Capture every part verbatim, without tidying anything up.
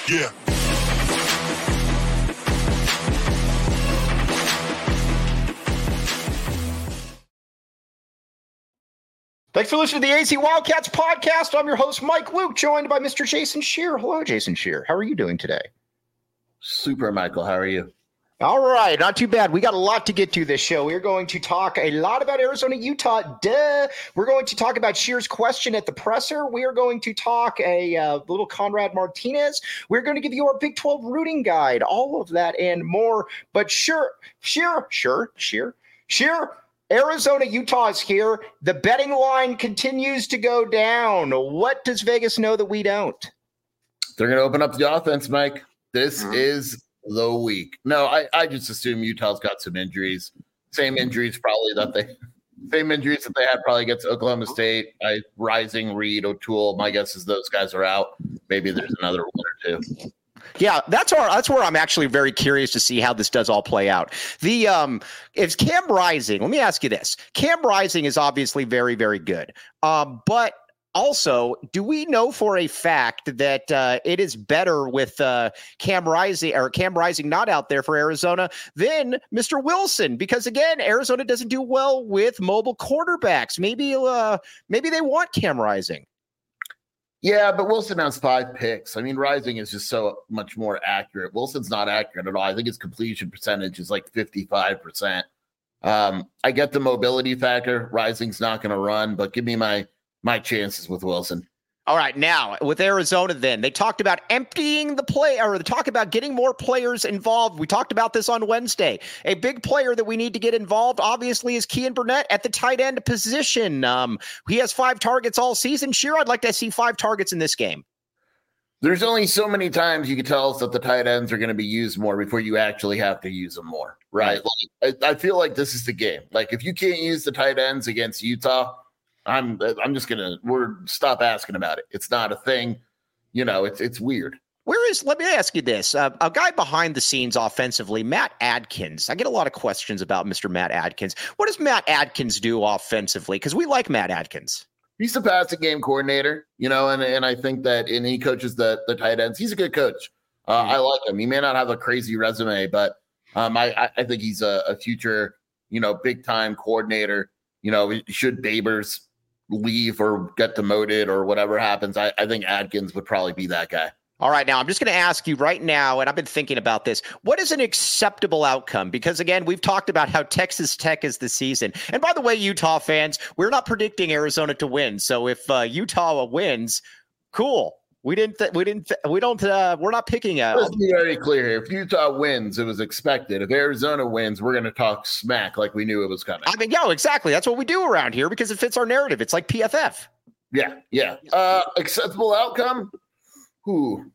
Yeah. Thanks for listening to the A Z Wildcats podcast. I'm your host, Mike Luke, joined by Mister Jason Scheer. Hello, Jason Scheer. How are you doing today? Super, Michael. How are you? All right, not too bad. We got a lot to get to this show. We're going to talk a lot about Arizona, Utah. Duh. We're going to talk about Scheer's question at the presser. We are going to talk a uh, little Conrad Martinez. We're going to give you our Big twelve rooting guide, all of that and more. But sure, Scheer, sure, Scheer, Scheer. Arizona, Utah is here. The betting line continues to go down. What does Vegas know that we don't? They're going to open up the offense, Mike. This Mm-hmm. is the week. No, I, I just assume Utah's got some injuries. Same injuries probably that they same injuries that they had probably against Oklahoma State. I Rising, Reed, O'Toole. My guess is those guys are out. Maybe there's another one or two. Yeah, that's where that's where I'm actually very curious to see how this does all play out. The um, if Cam Rising, let me ask you this: Cam Rising is obviously very, very good, um, but also, do we know for a fact that uh, it is better with uh, Cam Rising or Cam Rising not out there for Arizona than Mister Wilson? Because again, Arizona doesn't do well with mobile quarterbacks. Maybe uh, maybe they want Cam Rising. Yeah, but Wilson has five picks. I mean, Rising is just so much more accurate. Wilson's not accurate at all. I think his completion percentage is like fifty-five percent. Um, I get the mobility factor. Rising's not going to run, but give me my my chances with Wilson. All right, now with Arizona, then they talked about emptying the play, or they talk about getting more players involved. We talked about this on Wednesday. A big player that we need to get involved, obviously, is Kean Burnett at the tight end position. Um, he has five targets all season. Scheer, I'd like to see five targets in this game. There's only so many times you can tell us that the tight ends are going to be used more before you actually have to use them more, right? Like, I, I feel like this is the game. Like, if you can't use the tight ends against Utah, I'm I'm just gonna we're stop asking about it. It's not a thing, you know. It's it's weird. Where is? Let me ask you this: uh, a guy behind the scenes offensively, Matt Adkins. I get a lot of questions about Mister Matt Adkins. What does Matt Adkins do offensively? Because we like Matt Adkins. He's the passing game coordinator, you know, and and I think that and he coaches the the tight ends. He's a good coach. Uh, mm-hmm. I like him. He may not have a crazy resume, but um, I I think he's a, a future, you know, big time coordinator. You know, should Babers leave or get demoted or whatever happens, I, I think Adkins would probably be that guy. All right, now I'm just going to ask you right now, and I've been thinking about this. What is an acceptable outcome? Because, again, we've talked about how Texas Tech is the season. And by the way, Utah fans, we're not predicting Arizona to win. So if uh, Utah wins, cool. We didn't. Th- we didn't. Th- we don't. Uh, we're not picking a. Let's be very clear here. If Utah wins, it was expected. If Arizona wins, we're going to talk smack like we knew it was coming. I mean, yeah, exactly. That's what we do around here because it fits our narrative. It's like P F F. Yeah, yeah. Uh, acceptable outcome. Who?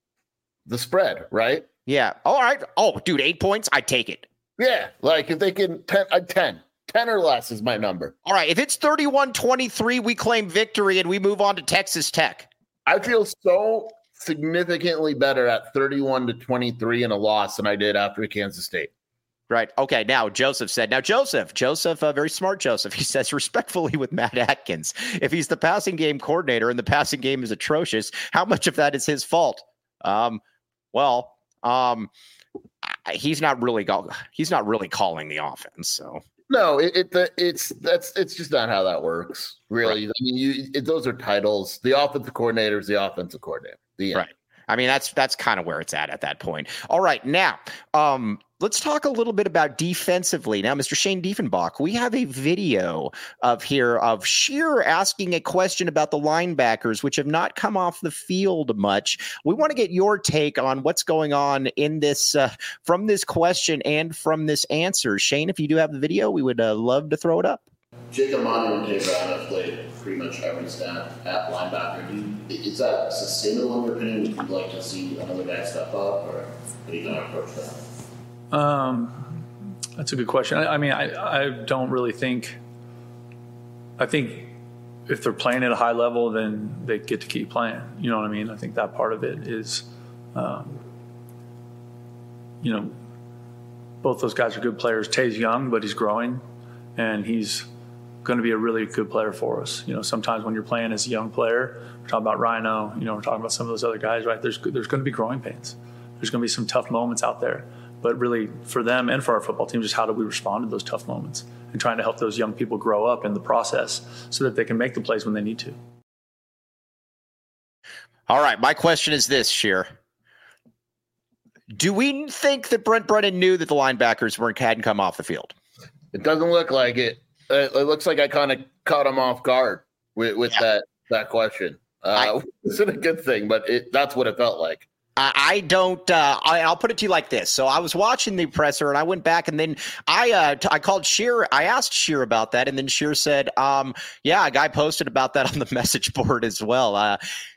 The spread, right? Yeah. All right. Oh, dude, eight points. I take it. Yeah, like if they can ten, uh, ten. ten or less is my number. All right. If it's thirty-one twenty-three, we claim victory and we move on to Texas Tech. I feel so significantly better at thirty-one to twenty-three in a loss than I did after Kansas State. Right. Okay. Now, Joseph said, now, Joseph, Joseph, uh, very smart Joseph. He says respectfully with Matt Adkins, if he's the passing game coordinator and the passing game is atrocious, how much of that is his fault? Um, well, um, he's not really go- he's not really calling the offense. So. No, it, it it's that's it's just not how that works, really. Right. I mean, you it, those are titles. The offensive coordinator is the offensive coordinator. The right. I mean, that's that's kind of where it's at at that point. All right, now um, let's talk a little bit about defensively. Now, Mister Shane Diefenbach, we have a video of here of Scheer asking a question about the linebackers, which have not come off the field much. We want to get your take on what's going on in this uh, from this question and from this answer. Shane, if you do have the video, we would uh, love to throw it up. Jacob Monty and Tate Brown have played pretty much every snap at linebacker. Do you, is that sustainable in your opinion? Would you like to see another guy step up, or how do you going to approach that? Um, that's a good question. I, I mean, I, I don't really think. I think if they're playing at a high level, then they get to keep playing. You know what I mean? I think that part of it is, um, you know, both those guys are good players. Tay's young, but he's growing, and he's going to be a really good player for us. You know, sometimes when you're playing as a young player, we're talking about Rhino, you know, we're talking about some of those other guys, right? There's there's going to be growing pains. There's going to be some tough moments out there. But really, for them and for our football team, just how do we respond to those tough moments and trying to help those young people grow up in the process so that they can make the plays when they need to. All right, my question is this, Sheer. Do we think that Brent Brennan knew that the linebackers weren't hadn't come off the field? It doesn't look like it. It, it looks like I kind of caught him off guard with, with yeah. that that question. Uh, I, it's a good thing, but it, that's what it felt like. I don't. Uh, I, I'll put it to you like this. So I was watching the presser, and I went back, and then I uh, t- I called Sheer. I asked Sheer about that, and then Sheer said, um, "Yeah, a guy posted about that on the message board as well." Uh,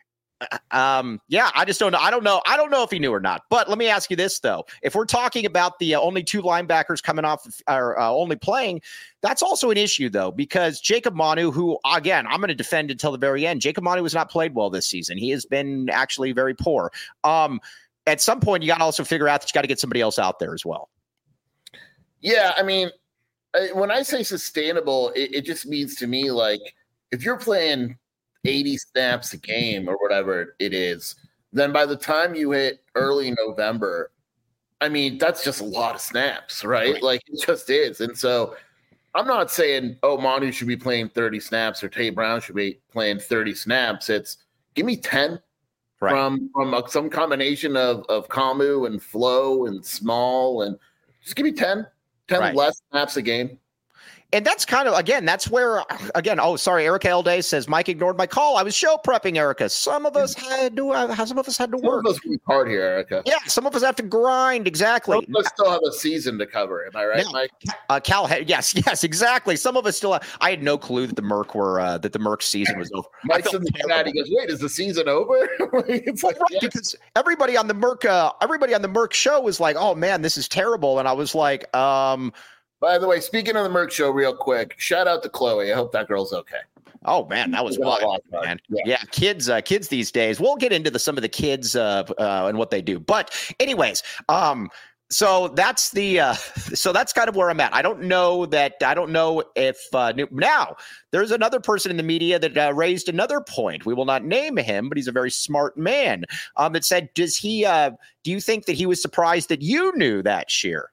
um, yeah, I just don't know. I don't know. I don't know if he knew or not. But let me ask you this though: if we're talking about the uh, only two linebackers coming off or uh, only playing, that's also an issue though, because Jacob Manu, who again I'm going to defend until the very end, Jacob Manu has not played well this season. He has been actually very poor. Um, at some point, you got to also figure out that you got to get somebody else out there as well. Yeah, I mean, when I say sustainable, it, it just means to me like if you're playing eighty snaps a game or whatever it is, then by the time you hit early November, I mean, that's just a lot of snaps, right? right. Like it just is. And so I'm not saying, oh, Manu should be playing thirty snaps or Tate Brown should be playing thirty snaps. It's give me ten right. from, from a, some combination of, of Kamu and Flo and Small, and just give me ten, ten right. less snaps a game. And that's kind of, again, that's where, again, oh, sorry, Erica Elday says, Mike ignored my call. I was show prepping, Erica. Some of us had to, uh, some of us had to some work. Some of us work hard here, Erica. Yeah, some of us have to grind, exactly. Some of us still have a season to cover, am I right, now, Mike? Uh, Cal, yes, yes, exactly. Some of us still have, I had no clue that the Merc were, uh, that the Merc season was over. Mike's in the chat, he goes, wait, is the season over? It's like, right, yes. Because everybody on the Merc, uh, everybody on the Merc show was like, oh man, this is terrible. And I was like, um, by the way, speaking of the Merc show real quick, shout out to Chloe. I hope that girl's okay. Oh man, that was wild, man. Yeah, yeah kids, uh, kids these days. We'll get into the, some of the kids uh, uh, and what they do. But anyways, um, so that's the uh, so that's kind of where I'm at. I don't know that I don't know if uh, now there's another person in the media that uh, raised another point. We will not name him, but he's a very smart man. Um, that said, does he? Uh, do you think that he was surprised that you knew that, Sheer?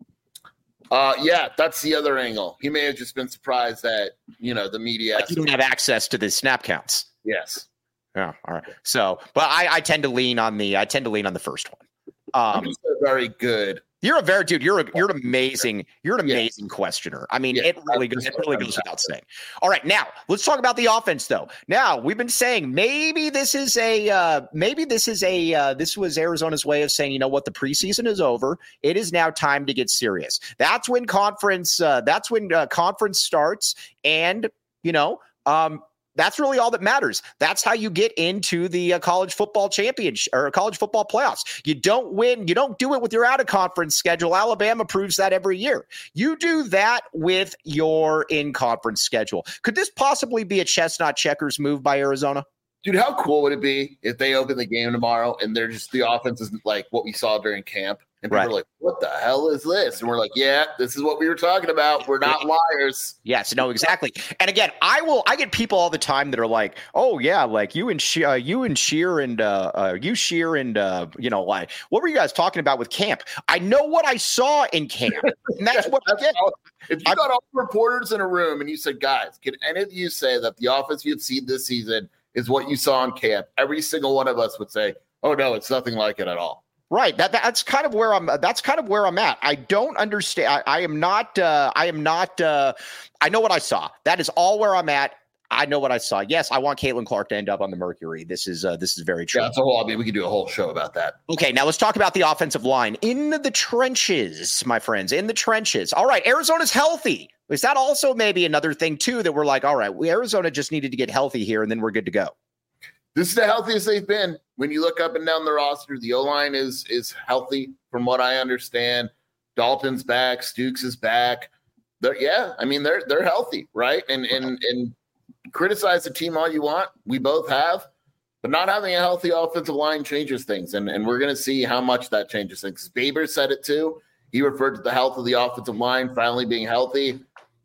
Uh, yeah, that's the other angle. He may have just been surprised that, you know, the media. Like you don't have access to the snap counts. Yes. Yeah. All right. So, but I, I tend to lean on the, I tend to lean on the first one. Um, I'm just a very good. You're a very dude. You're a, you're an amazing. You're an amazing yeah. questioner. I mean, yeah, it really goes. It really goes without saying. All right, now let's talk about the offense, though. Now we've been saying maybe this is a uh, maybe this is a uh, this was Arizona's way of saying, you know what, the preseason is over. It is now time to get serious. That's when conference. Uh, that's when uh, conference starts, and you know. Um, That's really all that matters. That's how you get into the uh, college football championship or college football playoffs. You don't win. You don't do it with your out of conference schedule. Alabama proves that every year. You do that with your in conference schedule. Could this possibly be a chestnut checkers move by Arizona? Dude, how cool would it be if they open the game tomorrow and they're just the offense is like what we saw during camp? And people right. are like, what the hell is this? And we're like, yeah, this is what we were talking about. We're not liars. Yes, no, exactly. And again, I will, I get people all the time that are like, oh yeah, like you and she, uh, you and Sheer and uh, uh, you Sheer and, uh, you know, like, what were you guys talking about with camp? I know what I saw in camp. And that's what that's I get. How, if you I, got all the reporters in a room and you said, guys, can any of you say that the offense you've seen this season is what you saw in camp? Every single one of us would say, oh no, it's nothing like it at all. Right. That that's kind of where I'm. That's kind of where I'm at. I don't understand. I, I am not. Uh, I am not. Uh, I know what I saw. That is all where I'm at. I know what I saw. Yes, I want Caitlin Clark to end up on the Mercury. This is uh, this is very true. Yeah, that's a whole. I mean, we could do a whole show about that. Okay, now let's talk about the offensive line in the trenches, my friends. In the trenches. All right, Arizona's healthy. Is that also maybe another thing too that we're like, all right, we Arizona just needed to get healthy here, and then we're good to go. This is the healthiest they've been. When you look up and down the roster, the O-line is is healthy from what I understand. Dalton's back, Stukes is back. They're, yeah, I mean, they're they're healthy, right? And and and criticize the team all you want. We both have. But not having a healthy offensive line changes things. And, and we're going to see how much that changes things. Baber said it too. He referred to the health of the offensive line finally being healthy.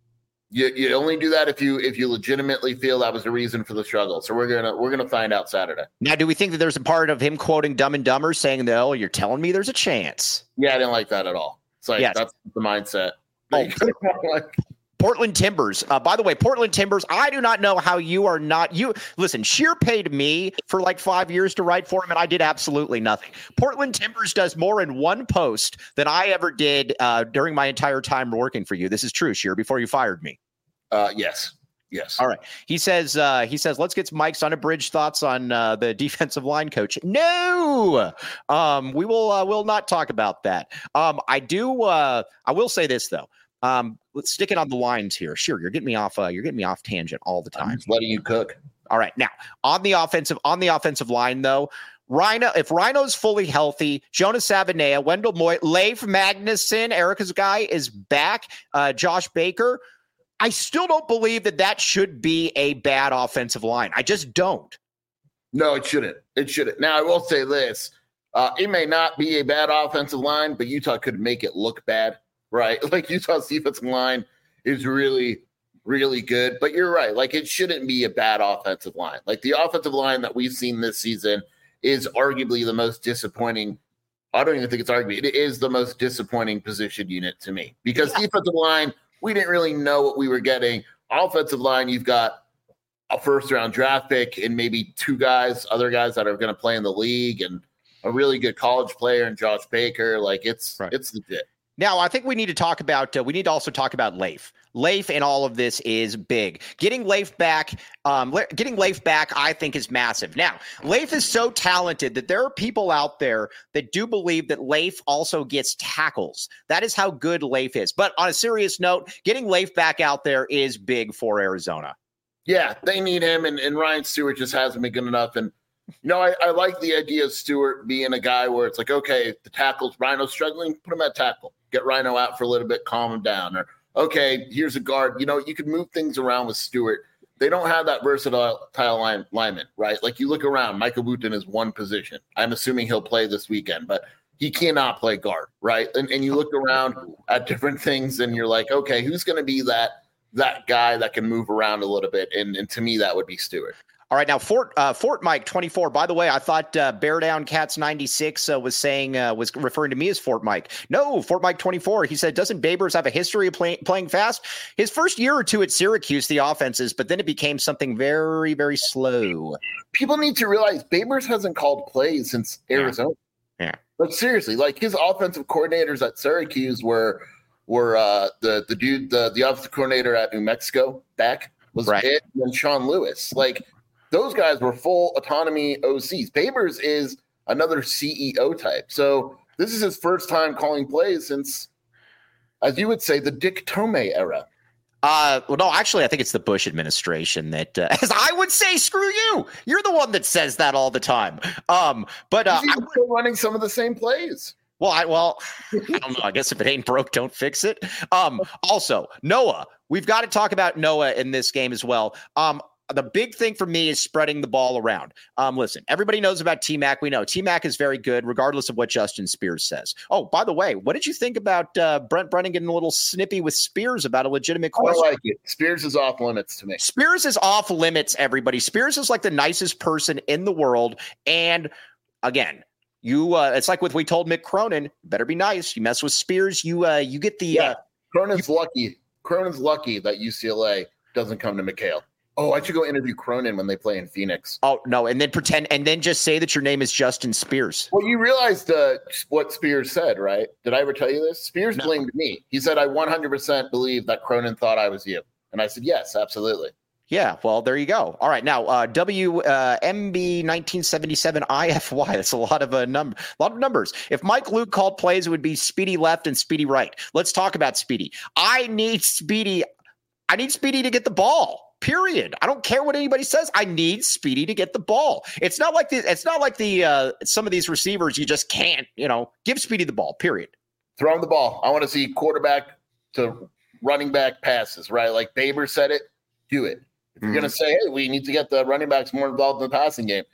You you only do that if you if you legitimately feel that was the reason for the struggle. So we're gonna we're gonna find out Saturday. Now, do we think that there's a part of him quoting Dumb and Dumber saying that, oh, you're telling me there's a chance? Yeah, I didn't like that at all. It's like yes. that's the mindset. Oh, like, Portland Timbers. Uh, by the way, Portland Timbers, I do not know how you are not you. Listen, Sheer paid me for like five years to write for him, and I did absolutely nothing. Portland Timbers does more in one post than I ever did uh, during my entire time working for you. This is true, Sheer, before you fired me. Uh, yes. Yes. All right. He says, uh, he says, let's get Mike's unabridged thoughts on uh, the defensive line coach. No, um, we will, uh, will not talk about that. Um, I do, uh, I will say this though. Um, let's stick it on the lines here. Sure. You're getting me off, uh, you're getting me off tangent all the time. I'm just letting you cook. All right. Now on the offensive, on the offensive line though, Rhino, if Rhino's fully healthy, Jonas Savanea, Wendell Moy, Leif Magnuson, Erica's guy is back. Uh, Josh Baker. I still don't believe that that should be a bad offensive line. I just don't. No, it shouldn't. It shouldn't. Now, I will say this. Uh, it may not be a bad offensive line, but Utah could make it look bad, right? Like Utah's defensive line is really, really good. But you're right. Like it shouldn't be a bad offensive line. Like the offensive line that we've seen this season is arguably the most disappointing. I don't even think it's arguably. It is the most disappointing position unit to me because yeah. defensive line – we didn't really know what we were getting. Offensive line, you've got a first-round draft pick and maybe two guys, other guys that are going to play in the league, and a really good college player in Josh Baker. Like, it's right. it's legit. Now, I think we need to talk about uh, – we need to also talk about Leif. Leif in all of this is big. Getting Leif back, um, le- getting Leif back, I think, is massive. Now, Leif is so talented that there are people out there that do believe that Leif also gets tackles. That is how good Leif is. But on a serious note, getting Leif back out there is big for Arizona. Yeah, they need him, and, and Ryan Stewart just hasn't been good enough. And, you know, I, I like the idea of Stewart being a guy where it's like, okay, the tackles, Rhino's struggling, put him at tackle. Get Rhino out for a little bit, calm him down. Or, okay, here's a guard. You know, you could move things around with Stewart. They don't have that versatile line, lineman, right? Like you look around, Michael Wooten is one position. I'm assuming he'll play this weekend, but he cannot play guard, right? And, and you look around at different things and you're like, okay, who's going to be that that guy that can move around a little bit? And, and to me, that would be Stewart. All right, now Fort uh, Fort Mike twenty-four. By the way, I thought uh, Bear Down Cats ninety-six uh, was saying uh, was referring to me as Fort Mike. No, Fort Mike twenty-four. He said, doesn't Babers have a history of play, playing fast? His first year or two at Syracuse, the offenses, but then it became something very, very slow. People need to realize Babers hasn't called plays since Arizona. Yeah. yeah. But seriously, like his offensive coordinators at Syracuse were were uh, the the dude the the offensive coordinator at New Mexico back was right. it, and Sean Lewis like. Those guys were full autonomy O Cs. Babers is another C E O type. So this is his first time calling plays since, as you would say, the Dick Tomei era. Uh, well, no, actually, I think it's the Bush administration that, uh, as I would say, screw you. You're the one that says that all the time. Um, but uh, He's even still running some of the same plays. Well, I well, I don't know. I guess if it ain't broke, don't fix it. Um, also, Noah, we've got to talk about Noah in this game as well. Um, The big thing for me is spreading the ball around. Um, listen, everybody knows about T-Mac. We know T-Mac is very good, regardless of what Justin Spears says. Oh, by the way, what did you think about uh, Brent Brennan getting a little snippy with Spears about a legitimate question? I like it. Spears is off limits to me. Spears is off limits, everybody. Spears is like the nicest person in the world. And again, you uh, it's like what we told Mick Cronin, better be nice. You mess with Spears, you uh, you get the yeah. uh, Cronin's you, lucky. Cronin's lucky that U C L A doesn't come to McHale. Oh, I should go interview Cronin when they play in Phoenix. Oh, no, and then pretend and then just say that your name is Justin Spears. Well, you realized uh, what Spears said, right? Did I ever tell you this? Spears no. blamed me. He said, I one hundred percent believe that Cronin thought I was you. And I said, yes, absolutely. Yeah, well, there you go. All right, now uh, W M B nineteen seventy-seven I F Y. That's a lot of a number, a lot of numbers. If Mike Luke called plays, it would be Speedy left and Speedy right. Let's talk about Speedy. I need Speedy. I need Speedy to get the ball. Period. I don't care what anybody says. I need Speedy to get the ball. It's not like the. It's not like the. Uh, some of these receivers you just can't. You know, give Speedy the ball. Period. Throw him the ball. I want to see quarterback to running back passes. Right, like Baber said it. Do it. If you're mm-hmm. gonna say, hey, we need to get the running backs more involved in the passing game.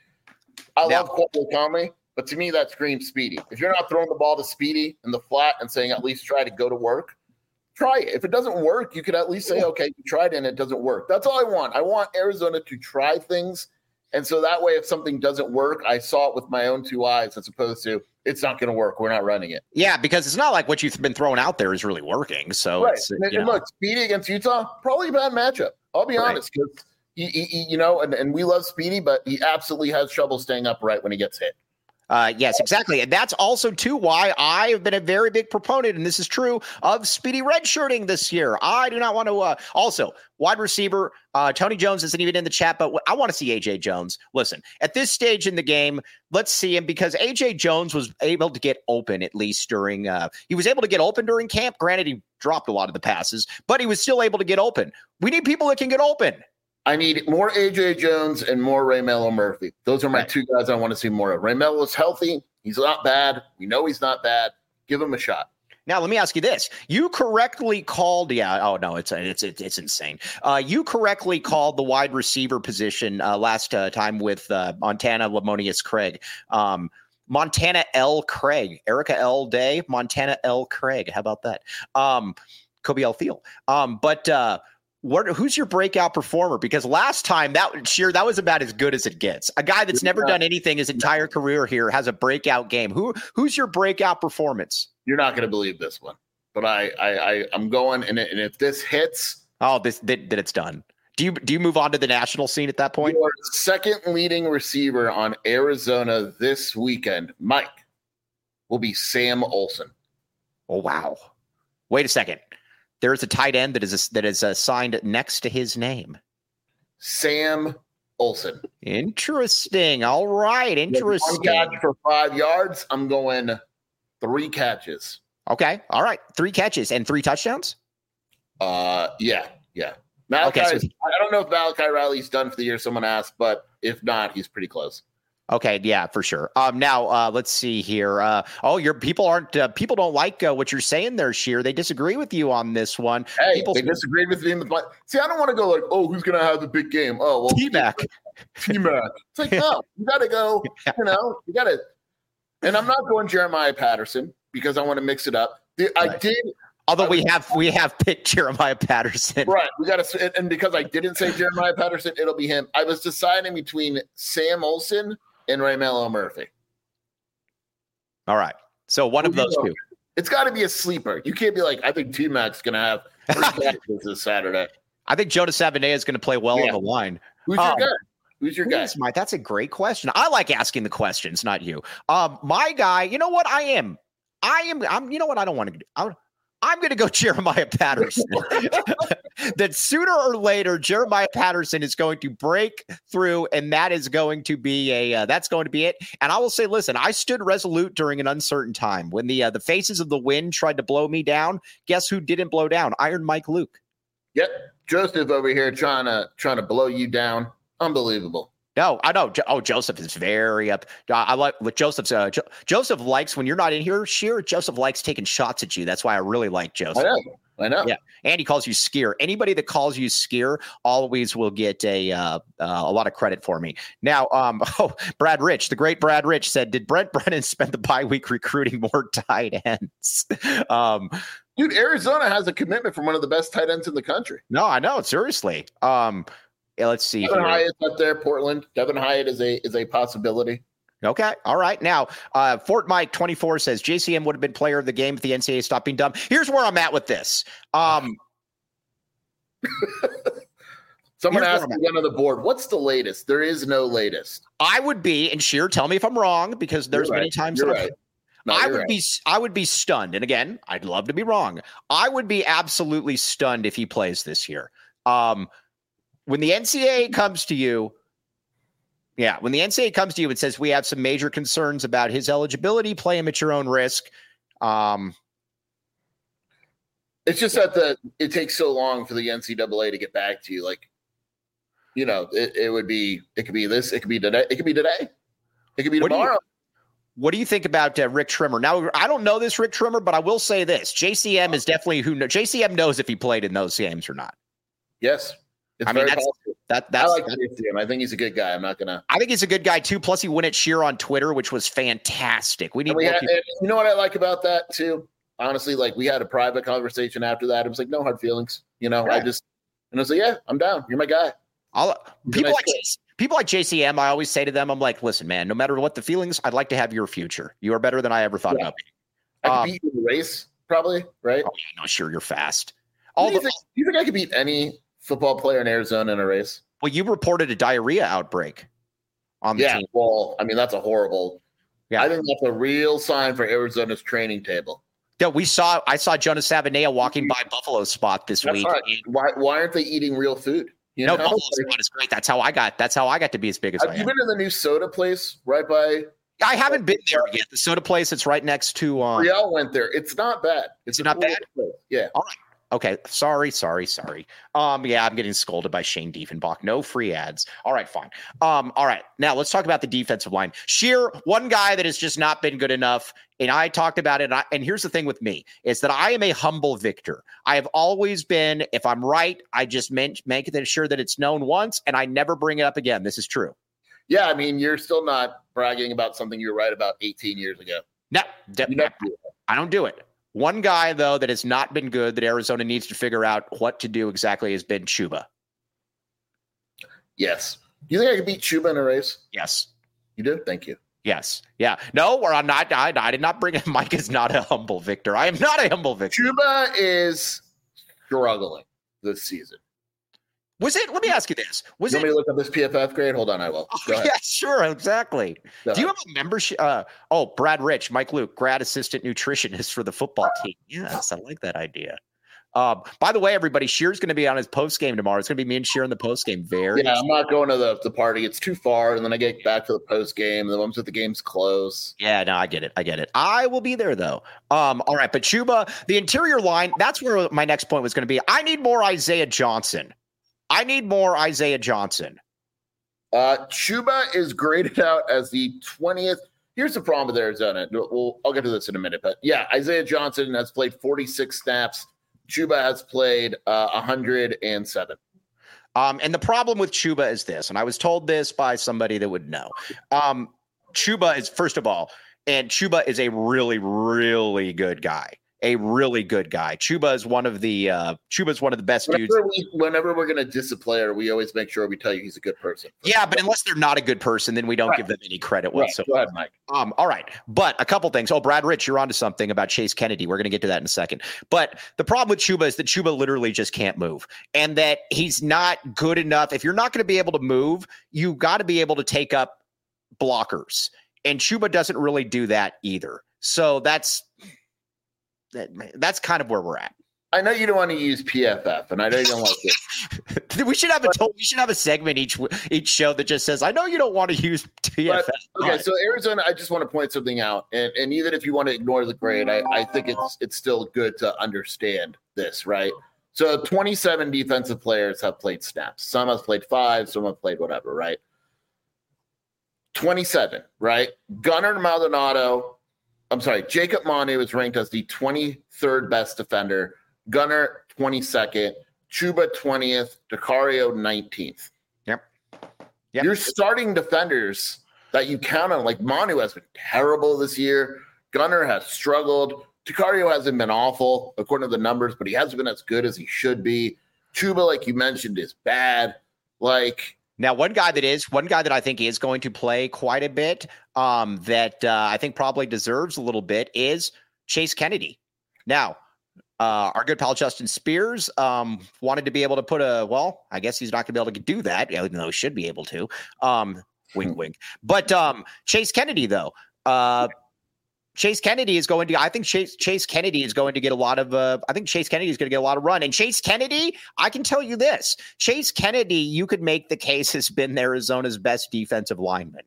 I now, love Cole Conley, but to me that screams Speedy. If you're not throwing the ball to Speedy in the flat and saying at least try to go to work, try it. If it doesn't work, you could at least say, okay, you tried it and it doesn't work. That's all I want. I want Arizona to try things. And so that way, if something doesn't work, I saw it with my own two eyes as opposed to it's not going to work. We're not running it. Yeah, because it's not like what you've been throwing out there is really working. So, right. it's, and, you and know. look, Speedy against Utah, probably a bad matchup. I'll be Right. honest, because he, he, he, you know, and, and we love Speedy, but he absolutely has trouble staying upright when he gets hit. Uh, yes, exactly. And that's also, too, why I have been a very big proponent, and this is true, of Speedy redshirting this year. I do not want to uh, – also, wide receiver, uh, Tony Jones isn't even in the chat, but I want to see A J Jones. Listen, at this stage in the game, let's see him because A J Jones was able to get open at least during uh, – he was able to get open during camp. Granted, he dropped a lot of the passes, but he was still able to get open. We need people that can get open. I need more A J Jones and more Raymelo Murphy. Those are my right. two guys I want to see more of. Raymelo's healthy. He's not bad. We know he's not bad. Give him a shot. Now, let me ask you this. You correctly called, yeah, oh, no, it's it's it's, it's insane. Uh, you correctly called the wide receiver position uh, last uh, time with uh, Montana Lamonius Craig. Um, Montana L. Craig. Erica L. Day, Montana L. Craig. How about that? Um, Kobe L. Thiel. Um, but uh, what? Who's your breakout performer? Because last time, that sure, that was about as good as it gets. A guy that's never done anything his entire career here has a breakout game. Who Who's your breakout performance? You're not going to believe this one, but I, I, I I'm going, and, and if this hits, oh, this that it's done. Do you do you move on to the national scene at that point? Your second leading receiver on Arizona this weekend, Mike, will be Sam Olson. Oh wow! Wait a second. There's a tight end that is a, that is assigned next to his name. Sam Olson. Interesting. All right. Interesting. One catch for five yards. I'm going three catches. Okay. All right. Three catches and three touchdowns? Uh, yeah. Yeah. Malachi, okay, so, I don't know if Malachi Riley's done for the year, someone asked, but if not, he's pretty close. Okay, yeah, for sure. Um, now uh, let's see here. Uh, oh, your people aren't uh, people don't like uh, what you're saying there, Sheer. They disagree with you on this one. Hey, people they disagreed with me in the see. I don't want to go like, oh, who's gonna have the big game? Oh, well, T-Mac. T-Mac. It's like no, you got to go. You know, you got to. And I'm not going Jeremiah Patterson because I want to mix it up. The, right. I did. Although we have we have picked Jeremiah Patterson. Right. We got to, and because I didn't say Jeremiah Patterson, it'll be him. I was deciding between Sam Olson and Raymelo Murphy. All right. So one of those two. It's got to be a sleeper. You can't be like, I think T-Mac's going to have three catches this Saturday. I think Jonas Savonay is going to play well yeah. on the line. Who's um, your guy? Who's your guy? My, that's a great question. I like asking the questions, not you. Um, my guy, you know what? I am. I am. I'm. You know what? I don't want to do. I, I'm going to go Jeremiah Patterson. That sooner or later, Jeremiah Patterson is going to break through, and that is going to be a uh, that's going to be it. And I will say, listen, I stood resolute during an uncertain time when the uh, the faces of the wind tried to blow me down. Guess who didn't blow down? Iron Mike Luke. Yep, Joseph over here trying to trying to blow you down. Unbelievable. No, I know. Oh, Joseph is very up. I like what Joseph's. Uh, jo- Joseph likes when you're not in here. Sheer Joseph likes taking shots at you. That's why I really like Joseph. I know. I know. Yeah, and he calls you Skier. Anybody that calls you Skier always will get a uh, uh, a lot of credit for me. Now, um, oh, Brad Rich, the great Brad Rich said, "Did Brent Brennan spend the bye week recruiting more tight ends?" um, Dude, Arizona has a commitment from one of the best tight ends in the country. No, I know. Seriously. Um, yeah, let's see. Devin Hyatt's up there, Portland. Devin Hyatt is a is a possibility. Okay. All right. Now, uh, Fort Mike twenty-four says J C M would have been player of the game if the N C double A stopped being dumb. Here's where I'm at with this. Um, Someone asked me on the board, what's the latest? There is no latest. I would be, and Sheer, tell me if I'm wrong, because there's you're many right. times you're that right. No, I would right. be I would be stunned. And again, I'd love to be wrong. I would be absolutely stunned if he plays this year. Um, when the N C double A comes to you, yeah, when the N C double A comes to you and says we have some major concerns about his eligibility, play him at your own risk. Um, it's just that the it takes so long for the N C double A to get back to you. Like, you know, it, it would be it could be this, it could be today, it could be today, it could be what tomorrow. Do you, what do you think about uh, Rick Trimmer? Now, I don't know this Rick Trimmer, but I will say this: J C M is definitely who know, J C M knows if he played in those games or not. Yes. It's I mean, very that's, possible. that, that's, I like that, J C M. I think he's a good guy. I'm not gonna. I think he's a good guy too. Plus, he went at Sheer on Twitter, which was fantastic. We need we more have, people. You know what I like about that too? honestly, like we had a private conversation after that. It was like, no hard feelings. You know, Right. I just, and I was like, yeah, I'm down. You're my guy. I'll, He's a people nice like guy. J C people like J C M, I always say to them, I'm like, listen, man, no matter what the feelings, I'd like to have your future. You are better than I ever thought Yeah. about being. I could Um, beat you in the race, probably, right? Oh, yeah, no, sure, you're fast. do, All you the, think, do you think I could beat any football player in Arizona in a race? well, you reported a diarrhea outbreak on the Yeah, team. well, I mean, that's a horrible. Yeah. I think that's a real sign for Arizona's training table. Yeah, we saw. I saw Jonas Savanea walking by Buffalo Spot this That's week. right. and- Why, why aren't they eating real food? You no, know, Buffalo Like, Spot is great. That's how I got. That's how I got to be as big as I have you am. been to the new soda place right by I haven't been there yet. The soda place. It's right next to. Um, Riel went there. It's not bad. It's Is it a not cool bad? place. Yeah. Okay, sorry, sorry, sorry. Um, yeah, I'm getting scolded by Shane Diefenbach. No free ads. All right, fine. Um, all right. Now let's talk about the defensive line. Sheer, one guy that has just not been good enough. And I talked about it. And, I, and here's the thing with me is that I am a humble victor. I have always been, if I'm right, I just make, make it sure that it's known once and I never bring it up again. This is true. Yeah, I mean, you're still not bragging about something you were right about eighteen years ago. No, de- You never do that. I don't do it. One guy, though, that has not been good that Arizona needs to figure out what to do exactly has been Chuba. Yes. You think I could beat Chuba in a race? Yes. You do? Thank you. Yes. Yeah. No, or I'm not. I, I did not bring it. Mike is not a humble victor. I am not a humble victor. Chuba is struggling this season. Was it? Let me ask you this. Was you it? want me to look up this P F F grade? Hold on, I will. Oh, Go ahead. yeah, sure. Exactly. Go Do you ahead. have a membership? Uh, oh, Brad Rich, Mike Luke, grad assistant nutritionist for the football team. Yes, I like that idea. Um, by the way, everybody, Shear's going to be on his post game tomorrow. It's going to be me and Shear in the post game. Very. Yeah, I'm not going to the, the party. It's too far. And then I get back to the post game. The ones with the game's close. Yeah, no, I get it. I get it. I will be there though. Um, all right, but Chuba, the interior line, that's where my next point was going to be. I need more Isaiah Johnson. I need more Isaiah Johnson. Uh, Chuba is graded out as the twentieth. Here's the problem with Arizona. We'll, I'll get to this in a minute. But yeah, Isaiah Johnson has played forty-six snaps. Chuba has played uh, one hundred seven. Um, and the problem with Chuba is this, and I was told this by somebody that would know. Um, Chuba is, first of all, and Chuba is a really, really good guy. A really good guy. Chuba is one of the uh, Chuba is one of the best dudes. Whenever, we, whenever we're going to diss a player, we always make sure we tell you he's a good person. Yeah, but unless they're not a good person, then we don't Right. give them any credit Right. whatsoever. Go ahead, Mike. Um, all right. But a couple things. Oh, Brad Rich, you're onto something about Chase Kennedy. We're going to get to that in a second. But the problem with Chuba is that Chuba literally just can't move and that he's not good enough. If you're not going to be able to move, you got to be able to take up blockers. And Chuba doesn't really do that either. So that's that, that's kind of where we're at. I know you don't want to use P F F, and I know you don't like it. We should have a to- we should have a segment each each show that just says, "I know you don't want to use P F F." But, okay, so Arizona, I just want to point something out, and, and even if you want to ignore the grade, I, I think it's it's still good to understand this, right? So twenty-seven defensive players have played snaps. Some have played five, some have played whatever, right? twenty-seven, right? Gunnar Maldonado, I'm sorry, Jacob Manu is ranked as the twenty-third best defender. Gunnar, twenty-second. Chuba, twentieth. DeCario, nineteenth. Yep. Yep. Your starting defenders that you count on, like Manu has been terrible this year. Gunnar has struggled. DeCario hasn't been awful, according to the numbers, but he hasn't been as good as he should be. Chuba, like you mentioned, is bad. Like, Now, one guy that is one guy that I think is going to play quite a bit, um, that uh, I think probably deserves a little bit, is Chase Kennedy. Now, uh, our good pal Justin Spears um, wanted to be able to put a well. I guess he's not going to be able to do that, even though he should be able to. Um, wink, wink. But um, Chase Kennedy, though. Uh, Chase Kennedy is going to, I think Chase, Chase Kennedy is going to get a lot of, uh, I think Chase Kennedy is going to get a lot of run. And Chase Kennedy, I can tell you this, Chase Kennedy, you could make the case has been Arizona's best defensive lineman.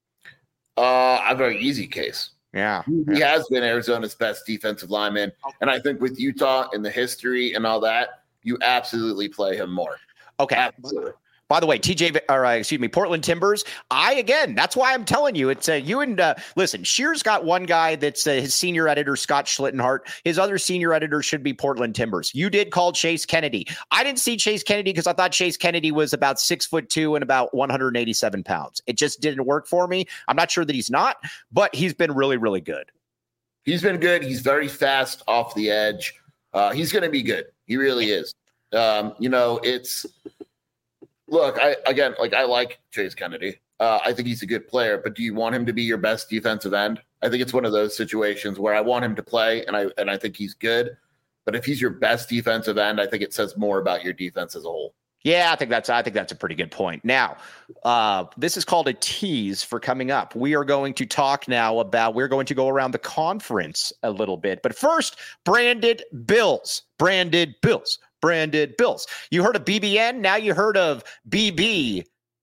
uh, a very easy case. Yeah. He has been Arizona's best defensive lineman. And I think with Utah and the history and all that, you absolutely play him more. Okay. Absolutely. By the way, T J, or uh, excuse me, Portland Timbers. I again, that's why I'm telling you, it's uh, you and uh, listen. Shear's got one guy that's uh, his senior editor, Scott Schlittenhart. His other senior editor should be Portland Timbers. You did call Chase Kennedy. I didn't see Chase Kennedy because I thought Chase Kennedy was about six foot two and about one hundred eighty-seven pounds. It just didn't work for me. I'm not sure that he's not, but he's been really, really good. He's been good. He's very fast off the edge. Uh, he's going to be good. He really is. Um, you know, it's look, I again, like I like Chase Kennedy. Uh, I think he's a good player, but do you want him to be your best defensive end? I think it's one of those situations where I want him to play, and I and I think he's good. But if he's your best defensive end, I think it says more about your defense as a whole. Yeah, I think that's I think that's a pretty good point. Now, uh, this is called a tease for coming up. We are going to talk now about we're going to go around the conference a little bit. But first, branded Bills, branded Bills, branded Bills. You heard of B B N, now you heard of B B.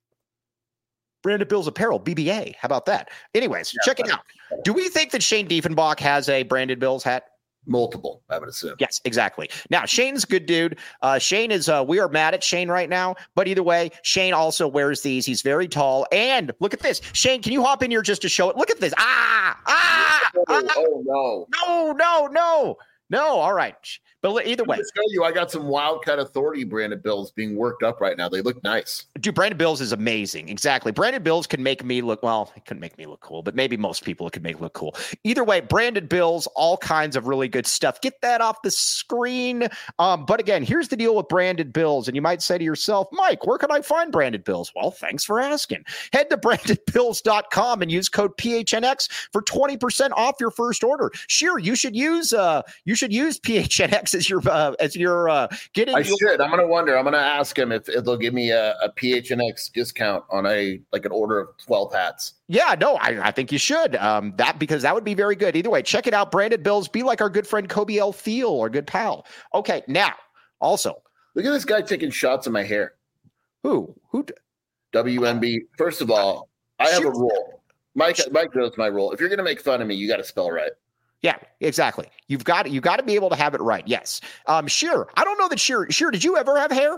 Branded Bills apparel, B B A. How about that? Anyways, yeah, check it out. Do we think that Shane Diefenbach has a branded Bills hat? Multiple, I would assume. Yes, exactly. Now, Shane's a good dude. Uh, Shane is, uh, we are mad at Shane right now, but either way, Shane also wears these. He's very tall. And look at this. Shane, can you hop in here just to show it? Look at this. Ah, ah, oh, ah. oh no. No, no, no, no. All right. But either way, I'll show you, I got some Wildcat Authority branded Bills being worked up right now. They look nice. Dude, branded Bills is amazing. Exactly. Branded Bills can make me look, well, it couldn't make me look cool, but maybe most people it could make look cool. Either way, branded Bills, all kinds of really good stuff. Get that off the screen. Um, but again, here's the deal with branded Bills. And you might say to yourself, Mike, where can I find branded Bills? Well, thanks for asking. Head to branded bills dot com and use code P H N X for twenty percent off your first order. Sure, you should use uh, you should use P H N X as your uh, as you're uh, getting. I your- should. I'm going to wonder. I'm going to ask him if, if they'll give me a, a P H N X discount on a like an order of twelve hats. Yeah, no, I, I think you should. Um, that because that would be very good. Either way, check it out. Branded Bills. Be like our good friend Kobe L. Thiel, our good pal. Okay, now also look at this guy taking shots of my hair. Who who? D- W N B. First of all, I have a rule. Mike Mike knows my rule. If you're going to make fun of me, you got to spell right. Yeah, exactly. You've got you got to be able to have it right. Yes. Um, Sheer. I don't know that Sheer. Sheer, did you ever have hair?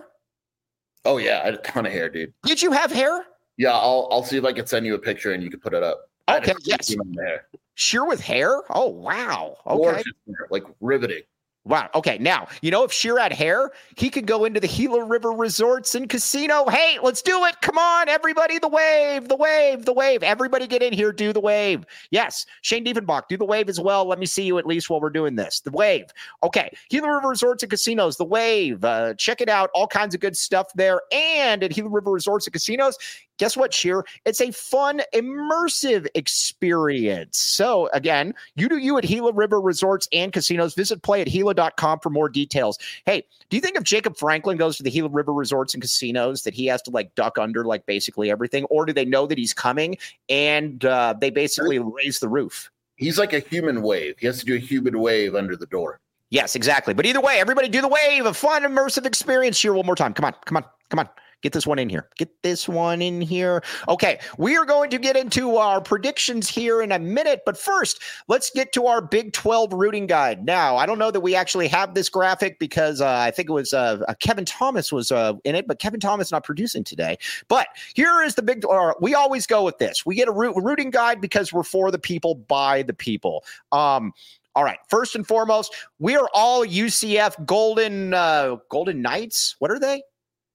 Oh yeah, I had a ton of hair, dude. Did you have hair? Yeah, I'll I'll see if I can send you a picture and you can put it up. Okay. Yes. Sheer with hair. Oh wow. Okay. Hair, like riveting. Wow. Okay. Now, you know, if Sheer had hair, he could go into the Gila River Resorts and Casino. Hey, let's do it. Come on, everybody. The wave, the wave, the wave. Everybody get in here. Do the wave. Yes. Shane Diefenbach, do the wave as well. Let me see you at least while we're doing this. The wave. Okay. Gila River Resorts and Casinos, the wave. Uh, check it out. All kinds of good stuff there. And at Gila River Resorts and Casinos, guess what, Sheer? It's a fun, immersive experience. So again, you do you at Gila River Resorts and Casinos. Visit play at Gila dot com for more details. Hey, do you think if Jacob Franklin goes to the Gila River Resorts and Casinos that he has to like duck under like basically everything? Or do they know that he's coming and uh, they basically raise the roof? He's like a human wave. He has to do a human wave under the door. Yes, exactly. But either way, everybody do the wave. A fun, immersive experience here one more time. Come on, come on, come on. Get this one in here. Get this one in here. Okay, we are going to get into our predictions here in a minute, but first, let's get to our Big twelve rooting guide. Now, I don't know that we actually have this graphic because uh, I think it was uh, uh, Kevin Thomas was uh, in it, but Kevin Thomas not producing today. But here is the big. Or we always go with this. We get a root, rooting guide because we're for the people, by the people. Um, All right. First and foremost, we are all U C F Golden uh, Golden Knights. What are they?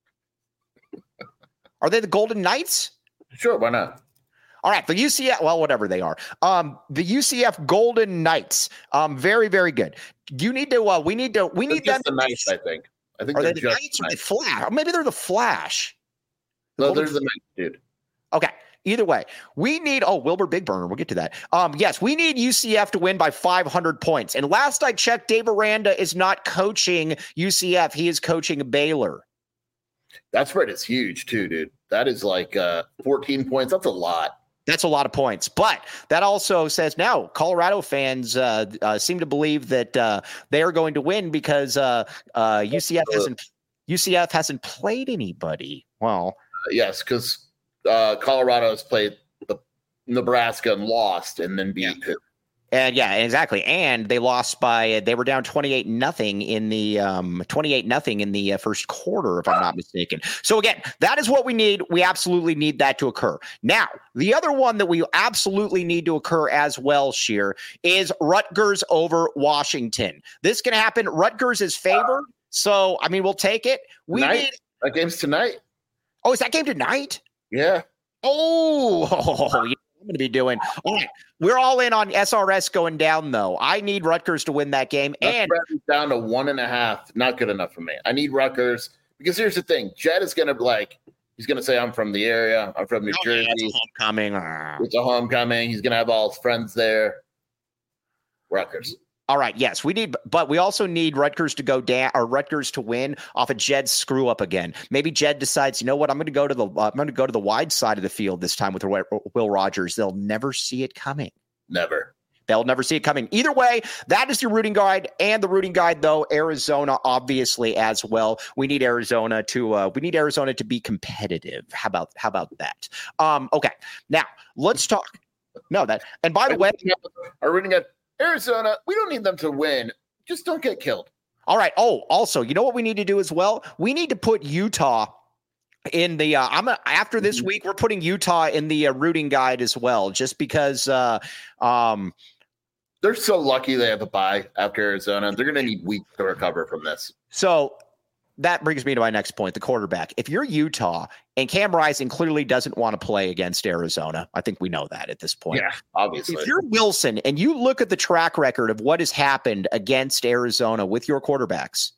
Are they the Golden Knights? Sure, why not? All right, the U C F, well, whatever they are. Um, the U C F Golden Knights. Um, very, very good. You need to. Uh, we need to. We need they're them. The Knights, I think. I think are they're they the just Knights or the Flash? Or maybe they're the Flash. The no, Golden they're the Knights, dude. Okay. Either way, we need. Oh, Wilbur Big Burner. We'll get to that. Um, yes, we need U C F to win by five hundred points. And last I checked, Dave Aranda is not coaching U C F. He is coaching Baylor. That spread is huge too, dude. That is like uh, fourteen points. That's a lot. That's a lot of points. But that also says now Colorado fans uh, uh, seem to believe that uh, they are going to win because uh, uh, U C F hasn't U C F hasn't played anybody. Well, uh, yes, because uh, Colorado has played the Nebraska and lost, and then beat yeah. And yeah, exactly. And they lost by, they were down twenty-eight nothing in the um, twenty-eight nothing in the uh, first quarter, if I'm not mistaken. So again, that is what we need. We absolutely need that to occur. Now, the other one that we absolutely need to occur as well, Sheer, is Rutgers over Washington. This can happen. Rutgers is favored. So, I mean, we'll take it. We tonight? need. That game's tonight. Oh, is that game tonight? Yeah. Oh, you know I'm going to be doing. All right, we're all in on S R S going down, though. I need Rutgers to win that game. That and spread is down to one and a half. Not good enough for me. I need Rutgers because here's the thing. Jed is going to like, he's going to say, I'm from the area. I'm from New oh, Jersey. Yeah, it's a homecoming. It's a homecoming. He's going to have all his friends there. Rutgers. All right, yes, we need, but we also need Rutgers to go down or Rutgers to win off of Jed's screw up again. Maybe Jed decides, you know what, I'm going to go to the uh, I'm going to go to the wide side of the field this time with Will Rogers. They'll never see it coming. Never. They'll never see it coming. Either way, that is your rooting guide, and the rooting guide, though, Arizona obviously as well. We need Arizona to uh, we need Arizona to be competitive. How about how about that? Um, okay, now let's talk. No, that and by the way, our rooting guide. Arizona, we don't need them to win. Just don't get killed. All right. Oh, also, you know what we need to do as well? We need to put Utah in the uh, I'm a, after this mm-hmm. week, we're putting Utah in the uh, rooting guide as well, just because uh, um, they're so lucky they have a bye after Arizona. They're going to need weeks to recover from this. So that brings me to my next point, the quarterback. If you're Utah and Cam Rising clearly doesn't want to play against Arizona, I think we know that at this point. Yeah, obviously. If you're Wilson and you look at the track record of what has happened against Arizona with your quarterbacks,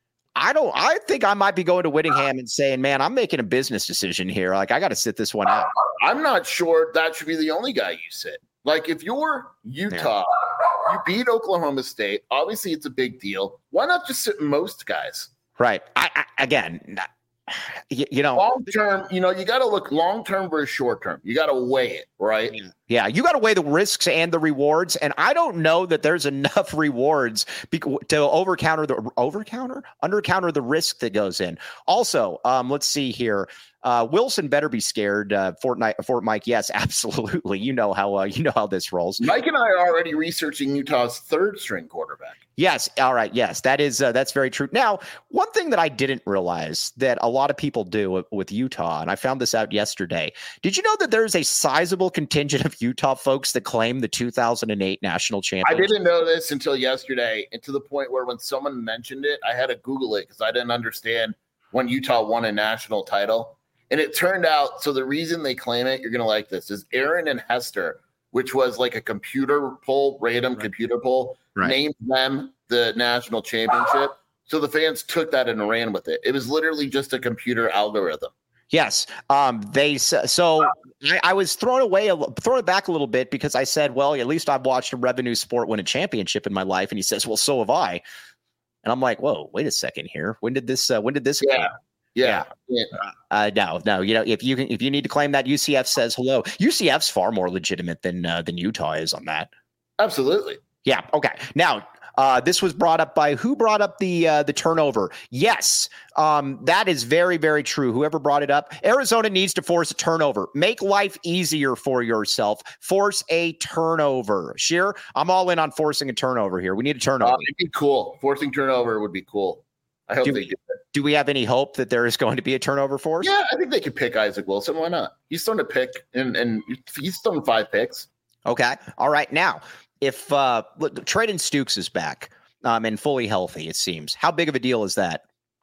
I don't, I think I might be going to Whittingham and saying, man, I'm making a business decision here. Like, I got to sit this one out. I'm not sure that should be the only guy you sit. Like, if you're Utah, yeah. you beat Oklahoma State. Obviously, it's a big deal. Why not just sit most guys? Right. I, I again, you, you know, long term, you know, you got to look long term versus short term. You got to weigh it, right? Yeah, you got to weigh the risks and the rewards. And I don't know that there's enough rewards be- to over counter the over counter under counter the risk that goes in. Also, um, let's see here. Uh, Wilson better be scared. Uh, Fortnite, Fort Mike. Yes, absolutely. You know how uh, you know how this rolls. Mike and I are already researching Utah's third string quarterback. Yes. All right. Yes, that is uh, that's very true. Now, one thing that I didn't realize that a lot of people do with, with Utah, and I found this out yesterday. Did you know that there's a sizable contingent of Utah folks that claim the two thousand eight national championship? I didn't know this until yesterday, and to the point where when someone mentioned it, I had to Google it because I didn't understand when Utah won a national title. And it turned out, so the reason they claim it, you're going to like this, is Aaron and Hester, which was like a computer poll, random right. computer poll, right. named them the national championship. So the fans took that and ran with it. It was literally just a computer algorithm. Yes. Um, they so I, I was thrown away, thrown it back a little bit because I said, well, at least I've watched a revenue sport win a championship in my life. And he says, well, so have I. And I'm like, whoa, wait a second here. When did this, uh, when did this? Yeah. Yeah. yeah. Uh, no, no. You know, if you can, if you need to claim that, U C F says hello. U C F's far more legitimate than uh, than Utah is on that. Absolutely. Yeah. Okay. Now, uh, this was brought up by who brought up the uh, the turnover? Yes, um, that is very, very true. Whoever brought it up, Arizona needs to force a turnover. Make life easier for yourself. Force a turnover. Sheer, I'm all in on forcing a turnover here. We need a turnover. Uh, it'd be cool. Forcing turnover would be cool. I hope do they we, do it. Do we have any hope that there is going to be a turnover force? Yeah, I think they could pick Isaac Wilson. Why not? He's thrown a pick, and, and he's thrown five picks. Okay. All right. Now, if uh, Traden Stukes is back um, and fully healthy, it seems, how big of a deal is that?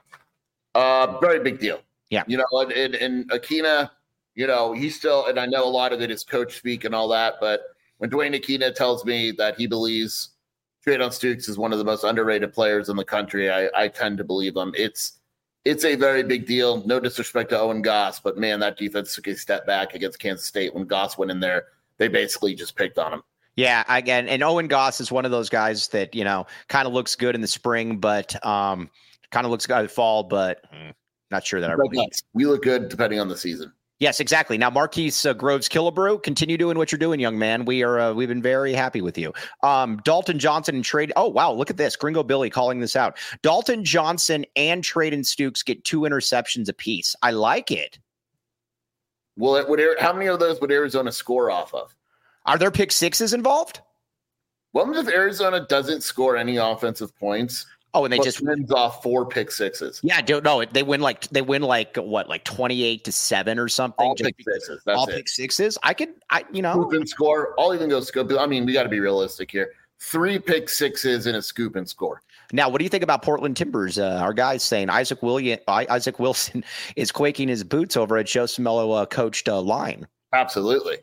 Uh, very big deal. Yeah. You know, and, and, and Akina, you know, he's still, and I know a lot of it is coach speak and all that, but when Dwayne Akina tells me that he believes Traden Stukes is one of the most underrated players in the country, I, I tend to believe him. It's it's a very big deal. No disrespect to Owen Goss, but man, that defense took a step back against Kansas State. When Goss went in there, they basically just picked on him. Yeah, again, and Owen Goss is one of those guys that, you know, kind of looks good in the spring, but um, kind of looks good in the fall, but mm, not sure that I really. We look good depending on the season. Yes, exactly. Now, Marquise uh, Groves Killebrew, continue doing what you're doing, young man. We are uh, we've been very happy with you. Um, Dalton Johnson and trade. Oh wow, look at this, Gringo Billy calling this out. Dalton Johnson and Traden Stukes get two interceptions apiece. I like it. Well, it would. How many of those would Arizona score off of? Are there pick sixes involved? What if Arizona doesn't score any offensive points? Oh, and they just wins off four pick sixes. Yeah, don't know. They win like they win like what, like twenty-eight to seven or something. All pick sixes. That's all it. pick sixes. I could, I you know, scoop and score. I'll even go scoop. I mean, we got to be realistic here. Three pick sixes and a scoop and score. Now, what do you think about Portland Timbers? Uh, our guys saying Isaac William, Isaac Wilson is quaking his boots over at Joe Cimello uh, coached uh, line. Absolutely.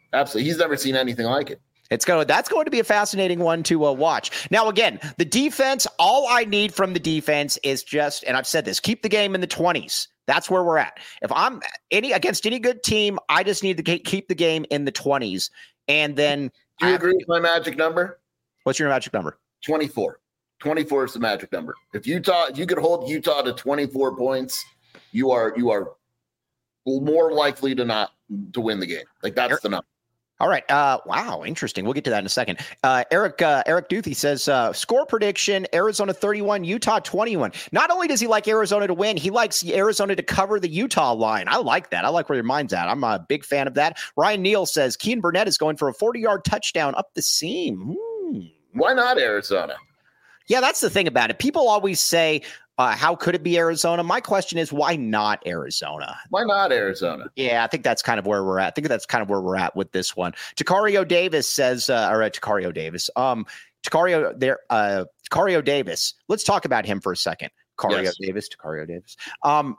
Absolutely. He's never seen anything like it. It's going. That's going to be a fascinating one to uh, watch. Now, again, the defense. All I need from the defense is just, and I've said this: keep the game in the twenties. That's where we're at. If I'm any against any good team, I just need to keep the game in the twenties. And then, do you I agree with my magic number? What's your magic number? twenty-four. twenty-four is the magic number. If Utah, if you could hold Utah to twenty-four points, you are you are more likely to not to win the game. Like that's Eric, the number. All right. Uh, wow, interesting. We'll get to that in a second. Uh, Eric uh, Eric Duthie says uh, score prediction: Arizona thirty-one, Utah twenty-one. Not only does he like Arizona to win, he likes Arizona to cover the Utah line. I like that. I like where your mind's at. I'm a big fan of that. Ryan Neal says Kean Burnett is going for a forty-yard touchdown up the seam. Hmm. Why not Arizona? Yeah, that's the thing about it. People always say, uh, how could it be Arizona? My question is, why not Arizona? Why not Arizona? Yeah, I think that's kind of where we're at. I think that's kind of where we're at with this one. Tacario Davis says, uh, or uh, Tacario Davis, um, Tacario there, uh, Tacario Davis. Let's talk about him for a second. Tacario yes. Davis, Tacario Davis. Um,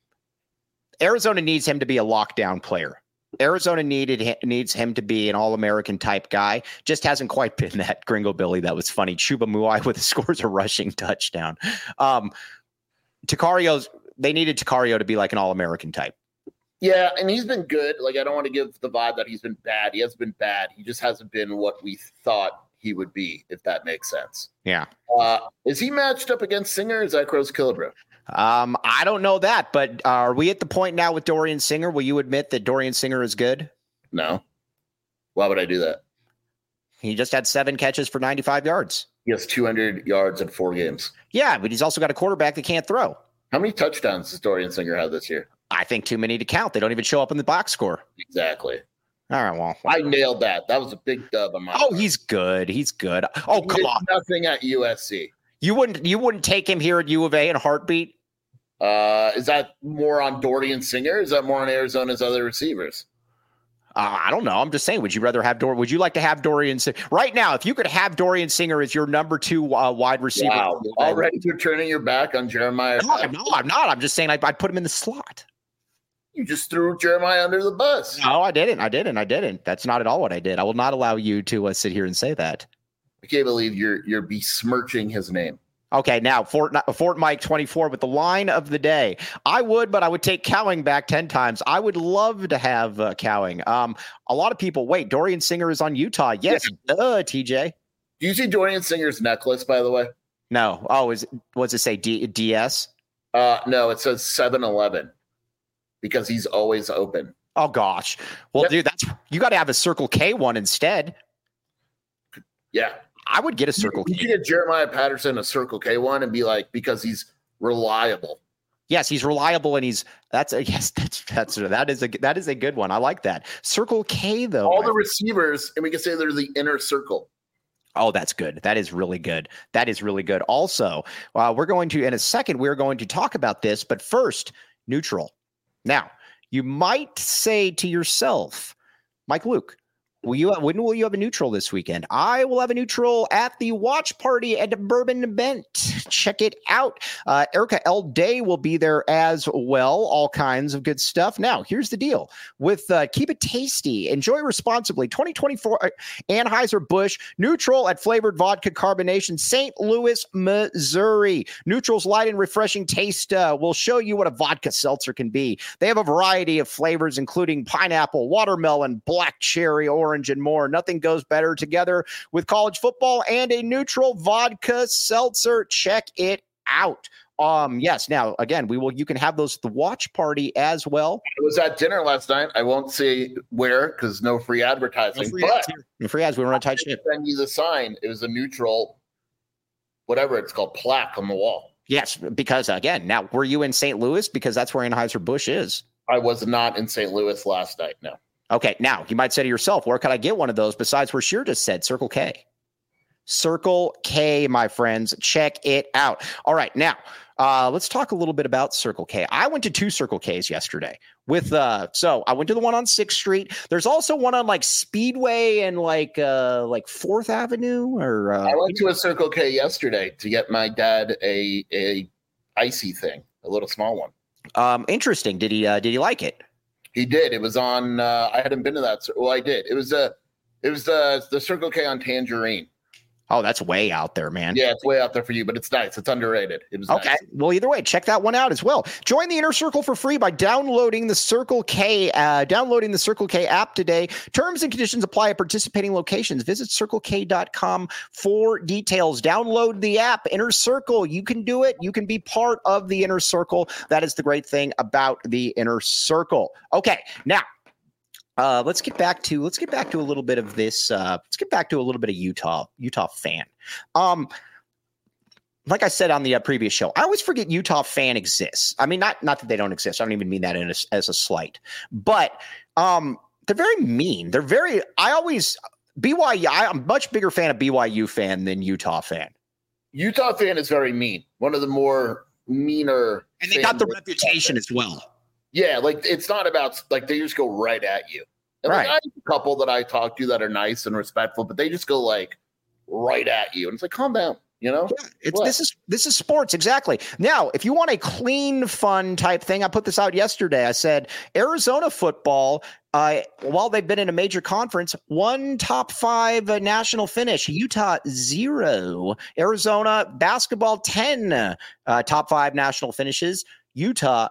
Arizona needs him to be a lockdown player. Arizona needed needs him to be an All-American type guy. Just hasn't quite been that. Gringo Billy, that was funny. Chuba Muai with the scores a rushing touchdown. Um, Tacario's they needed Tacario to be like an All-American type. Yeah, and he's been good. Like I don't want to give the vibe that he's been bad. He has been bad. He just hasn't been what we thought he would be, if that makes sense. Yeah. Uh, is he matched up against Singer? Or is that Crows Killebrew? Um, I don't know that, but are we at the point now with Dorian Singer? Will you admit that Dorian Singer is good? No. Why would I do that? He just had seven catches for ninety-five yards. He has two hundred yards in four games. Yeah, but he's also got a quarterback that can't throw. How many touchdowns does Dorian Singer have this year? I think too many to count. They don't even show up in the box score. Exactly. All right, well. I nailed that. That was a big dub on my Oh, part. He's good. He's good. Oh, he come on. Nothing at U S C. You wouldn't you wouldn't take him here at U of A in a heartbeat? Uh, is that more on Dorian Singer? Or is that more on Arizona's other receivers? Uh, I don't know. I'm just saying. Would you rather have Dor? Would you like to have Dorian Singer right now? If you could have Dorian Singer as your number two uh, wide receiver, wow. Already you're turning your back on Jeremiah. No, no, I'm not. I'm just saying I'd, I'd put him in the slot. You just threw Jeremiah under the bus. No, I didn't. I didn't. I didn't. That's not at all what I did. I will not allow you to uh, sit here and say that. I can't believe you're you're besmirching his name. Okay, now Fort Fort Mike twenty-four with the line of the day. I would, but I would take Cowing back ten times. I would love to have uh, Cowing. Um, a lot of people wait. Dorian Singer is on Utah. Yes, yeah. Duh, T J. Do you see Dorian Singer's necklace? By the way, no. Oh, is what's it say? D- DS? Uh, no, it says seven eleven because he's always open. Oh gosh. Well, yep. Dude, that's you got to have a Circle K one instead. Yeah. I would get a Circle K. You could get Jeremiah Patterson a Circle K one and be like, because he's reliable. Yes, he's reliable, and he's that's a yes, that's that's that is a that is a good one. I like that. Circle K though. All the receivers, and we can say they're the inner circle. Oh, that's good. That is really good. That is really good. Also, uh, we're going to in a second. We're going to talk about this, but first, neutral. Now, you might say to yourself, Mike Luke, will you, when will you have a neutral this weekend? I will have a neutral at the watch party at the Bourbon Bent. Check it out. Uh, Erica L. Day will be there as well. All kinds of good stuff. Now, here's the deal. With uh, Keep It Tasty, enjoy responsibly. twenty twenty-four Anheuser-Busch Neutral at Flavored Vodka Carbonation, Saint Louis, Missouri. Neutral's light and refreshing taste uh, will show you what a vodka seltzer can be. They have a variety of flavors, including pineapple, watermelon, black cherry, orange, and more. Nothing goes better together with college football and a neutral vodka seltzer. Check it out. Um, yes. Now, again, we will. You can have those at the watch party as well. I was at dinner last night. I won't say where because no free advertising. No free but ads here. No free ads. We were on a tight ship. Send you the sign. It was a neutral, whatever it's called, plaque on the wall. Yes, because again, now were you in Saint Louis? Because that's where Anheuser-Busch is. I was not in Saint Louis last night. No. Okay, now you might say to yourself, where could I get one of those besides where Sheer just said, Circle K? Circle K, my friends. Check it out. All right, now uh, let's talk a little bit about Circle K. I went to two Circle Ks yesterday. With uh, so I went to the one on sixth Street. There's also one on like Speedway and like uh, like fourth Avenue. Or uh, I went to a Circle K yesterday to get my dad a a icy thing, a little small one. Um, interesting. Did he uh, did he like it? He did. It was on. Uh, I hadn't been to that. Well, I did. It was a. Uh, it was the the Circle K on Tangerine. Oh, that's way out there, man. Yeah, it's way out there for you, but it's nice. It's underrated. It was okay. Nice. Well, either way, check that one out as well. Join the Inner Circle for free by downloading the Circle K, uh, downloading the Circle K app today. Terms and conditions apply at participating locations. Visit circle k dot com for details. Download the app, Inner Circle. You can do it. You can be part of the Inner Circle. That is the great thing about the Inner Circle. Okay, now. Uh, let's get back to let's get back to a little bit of this. Uh, let's get back to a little bit of Utah Utah fan. Um, like I said on the uh, previous show, I always forget Utah fan exists. I mean, not not that they don't exist. I don't even mean that in a, as a slight, but um, they're very mean. They're very. I always B Y U. I'm a much bigger fan of B Y U fan than Utah fan. Utah fan is very mean. One of the more meaner, and they got the reputation as well. Yeah, like it's not about like they just go right at you. And right. Like, I have a couple that I talk to that are nice and respectful, but they just go like right at you, and it's like, calm down, you know. Yeah, it's, this is this is sports exactly. Now, if you want a clean, fun type thing, I put this out yesterday. I said Arizona football, uh, while they've been in a major conference, one top five uh, national finish. Utah zero. Arizona basketball ten uh, top five national finishes. Utah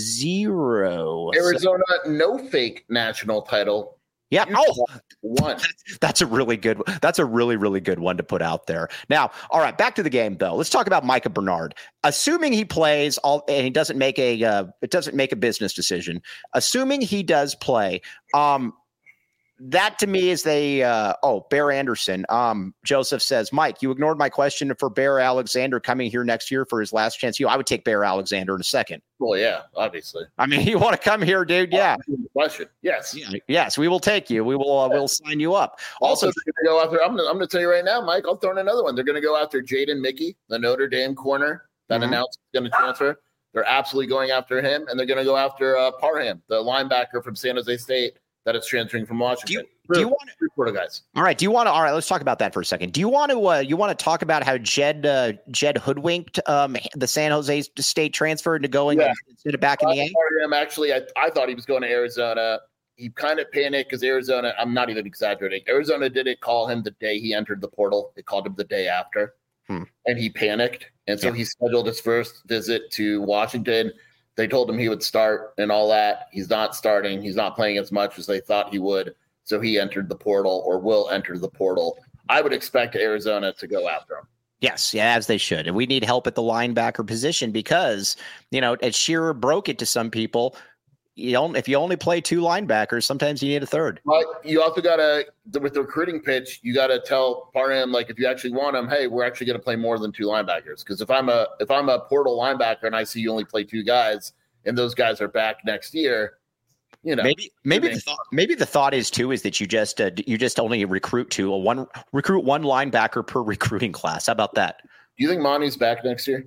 zero. Arizona so, no fake national title. Yeah. Utah oh, one. That's a really good. That's a really really good one to put out there. Now, all right, back to the game though. Let's talk about Micah Bernard. Assuming he plays all and he doesn't make a uh, it doesn't make a business decision. Assuming he does play, um, that to me is the uh, oh Bear Anderson. Um, Joseph says, Mike, you ignored my question for Bear Alexander coming here next year for his last chance. You, I would take Bear Alexander in a second. Well, yeah, obviously. I mean, you want to come here, dude? Yeah. Question. Yes. Yeah. Yes, we will take you. We will. Uh, we'll sign you up. Also, Also, they're going to go after. I'm going I'm to tell you right now, Mike. I'll throw in another one. They're going to go after Jaden Mickey, the Notre Dame corner that mm-hmm. announced going to transfer. They're absolutely going after him, and they're going to go after uh, Parham, the linebacker from San Jose State that is transferring from Washington. Do you, do you want to Florida guys? All right. Do you want to? All right. Let's talk about that for a second. Do you want to? Uh, you want to talk about how Jed uh, Jed hoodwinked um, the San Jose State transfer into going yeah. instead of back in the A? Him actually, I, I thought he was going to Arizona. He kind of panicked because Arizona. I'm not even exaggerating. Arizona didn't call him the day he entered the portal. They called him the day after, hmm. and he panicked. And so yeah. he scheduled his first visit to Washington. They told him he would start and all that. He's not starting. He's not playing as much as they thought he would. So he entered the portal or will enter the portal. I would expect Arizona to go after him. Yes, yeah, as they should. And we need help at the linebacker position because, you know, as Shearer broke it to some people, you don't, if you only play two linebackers, sometimes you need a third. But you also got to, with the recruiting pitch, you got to tell Parham, like, if you actually want him, hey, we're actually going to play more than two linebackers. Because if I'm a if I'm a portal linebacker and I see you only play two guys and those guys are back next year, you know, maybe maybe the thought, maybe the thought is too is that you just uh, you just only recruit two a one recruit one linebacker per recruiting class. How about that? Do you think Monty's back next year?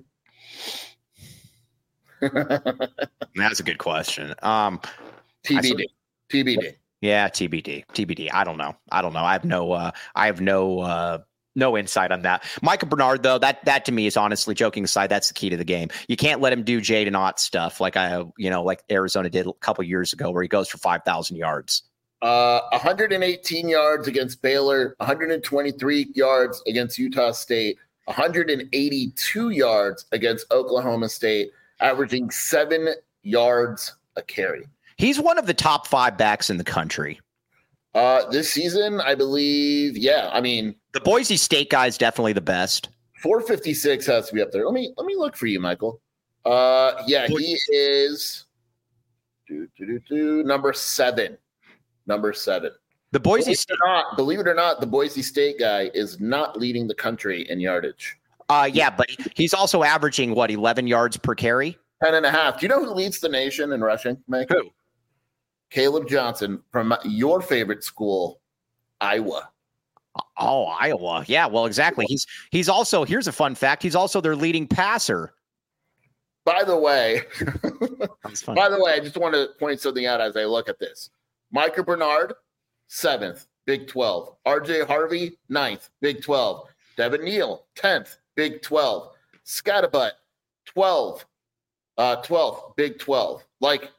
That's a good question. Um, T B D. T B D. Yeah, T B D. T B D. I don't know. I don't know. I have no. Uh, I have no. Uh, No insight on that. Micah Bernard, though, that that to me is honestly, joking aside, that's the key to the game. You can't let him do Jaden Ott stuff like I, you know, like Arizona did a couple years ago, where he goes for five thousand yards. Uh, one hundred eighteen yards against Baylor, one hundred twenty-three yards against Utah State, one hundred eighty-two yards against Oklahoma State, averaging seven yards a carry. He's one of the top five backs in the country. Uh, this season, I believe, yeah. I mean, the Boise State guy is definitely the best. four fifty-six has to be up there. Let me let me look for you, Michael. Uh, yeah, he is do, do, do, do, number seven. Number seven. The Boise believe State, it or not, believe it or not, the Boise State guy is not leading the country in yardage. Uh, yeah, but he's also averaging what, eleven yards per carry, ten and a half. Do you know who leads the nation in rushing, Mike? Who? Caleb Johnson from your favorite school, Iowa. Oh, Iowa. Yeah, well, exactly. He's he's also, here's a fun fact, he's also their leading passer. By the way, by the way, I just want to point something out as I look at this. Micah Bernard, seventh, Big twelve. R J Harvey, ninth, Big twelve. Devin Neal, tenth, Big twelve. Scatterbutt, twelve, uh, twelfth, Big twelve. Like,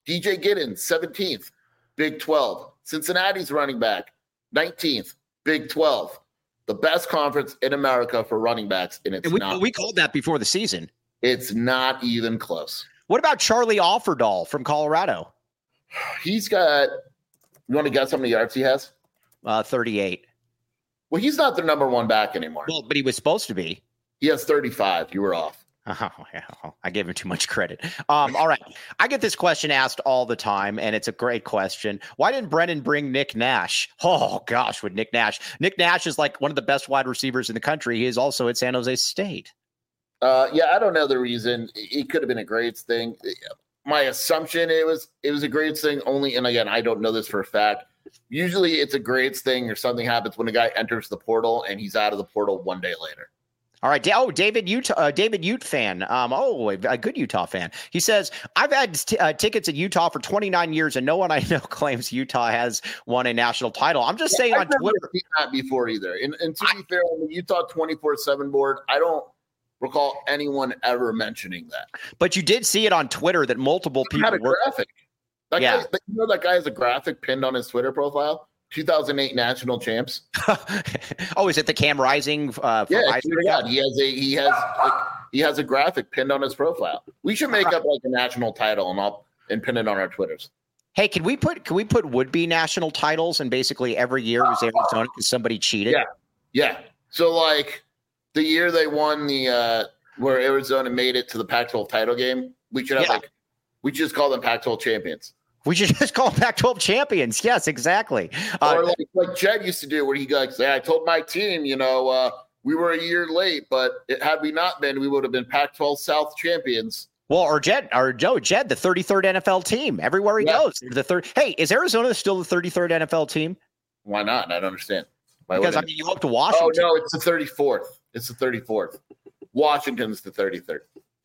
D J Giddens, seventeenth, Big twelve. Cincinnati's running back, nineteenth, Big twelve. The best conference in America for running backs, and it's and we, not. We called that before the season. It's not even close. What about Charlie Offerdahl from Colorado? He's got, you want to guess how many yards he has? Uh, thirty-eight. Well, he's not their number one back anymore. Well, but he was supposed to be. He has thirty-five. You were off. Oh, yeah. I gave him too much credit. Um, all right. I get this question asked all the time, and it's a great question. Why didn't Brennan bring Nick Nash? Oh, gosh, with Nick Nash. Nick Nash is like one of the best wide receivers in the country. He is also at San Jose State. Uh, yeah, I don't know the reason. It could have been a grades thing. My assumption it was it was a grades thing only, and again, I don't know this for a fact. Usually it's a grades thing or something happens when a guy enters the portal and he's out of the portal one day later. All right. Oh, David Utah, uh, David Ute fan. Um, oh, a good Utah fan. He says, I've had t- uh, tickets at Utah for twenty-nine years, and no one I know claims Utah has won a national title. I'm just saying I've on never Twitter. seen that before either. And, and to be fair, on the Utah twenty-four seven board, I don't recall anyone ever mentioning that. But you did see it on Twitter that multiple people had a were. graphic. That Yeah. guy, you know that guy has a graphic pinned on his Twitter profile? two thousand eight national champs. Oh, is it the Cam Rising? Uh, for Yeah, Rising? yeah, he has a he has like, he has a graphic pinned on his profile. We should make up like a national title and I'll and pin it on our Twitters. Hey, can we put can we put would be national titles and basically every year was Arizona because somebody cheated? Yeah, yeah. So like the year they won the uh, where Arizona made it to the Pac twelve title game, we should have Yeah. like we should just call them Pac twelve champions. We should just call them Pac twelve champions. Yes, exactly. Uh, Or like, like Jed used to do, where he like say, "I told my team, you know, uh, we were a year late, but it, had we not been, we would have been Pac twelve South champions." well, or Jed or Joe Jed, the thirty-third N F L team. Everywhere he Yeah. goes, the third. Hey, is Arizona still the thirty-third N F L team? Why not? I don't understand. Why Because I wouldn't mean, you go up to it? Washington. Oh no, it's the thirty-fourth. It's the thirty-fourth. Washington's the thirty-third.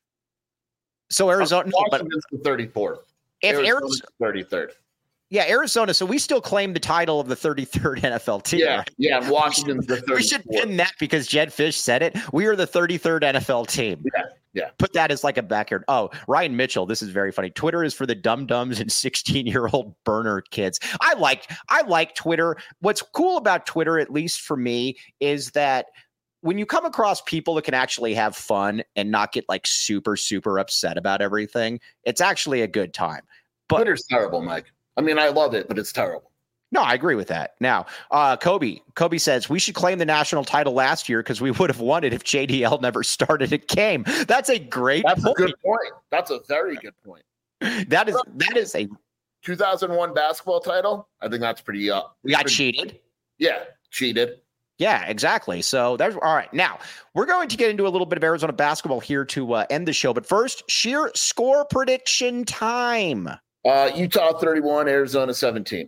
So Arizona, no, but Washington's the thirty-fourth. if Arizona's Arizona, the thirty-third. yeah, Arizona. So we still claim the title of the thirty-third N F L team. Yeah, right? yeah. And Washington's the thirty-fourth. We should pin that because Jed Fish said it. We are the thirty-third N F L team. Yeah, yeah. Put that as like a backyard. Oh, Ryan Mitchell. This is very funny. Twitter is for the dum dums and sixteen year old burner kids. I like I like Twitter. What's cool about Twitter, at least for me, is that when you come across people that can actually have fun and not get like super super upset about everything, it's actually a good time. But Twitter's terrible, Mike. I mean, I love it, but it's terrible. no, I agree with that. Now, uh, Kobe, Kobe says we should claim the national title last year because we would have won it if J D L never started a game. That's a great That's point. a good point. That's a very good point. That is that is a two thousand one basketball title. I think that's pretty up. we got pretty, cheated. Yeah, cheated. Yeah, exactly. So there's all right. Now we're going to get into a little bit of Arizona basketball here to uh, end the show. But first, sheer score prediction time. Uh, Utah thirty-one, Arizona seventeen.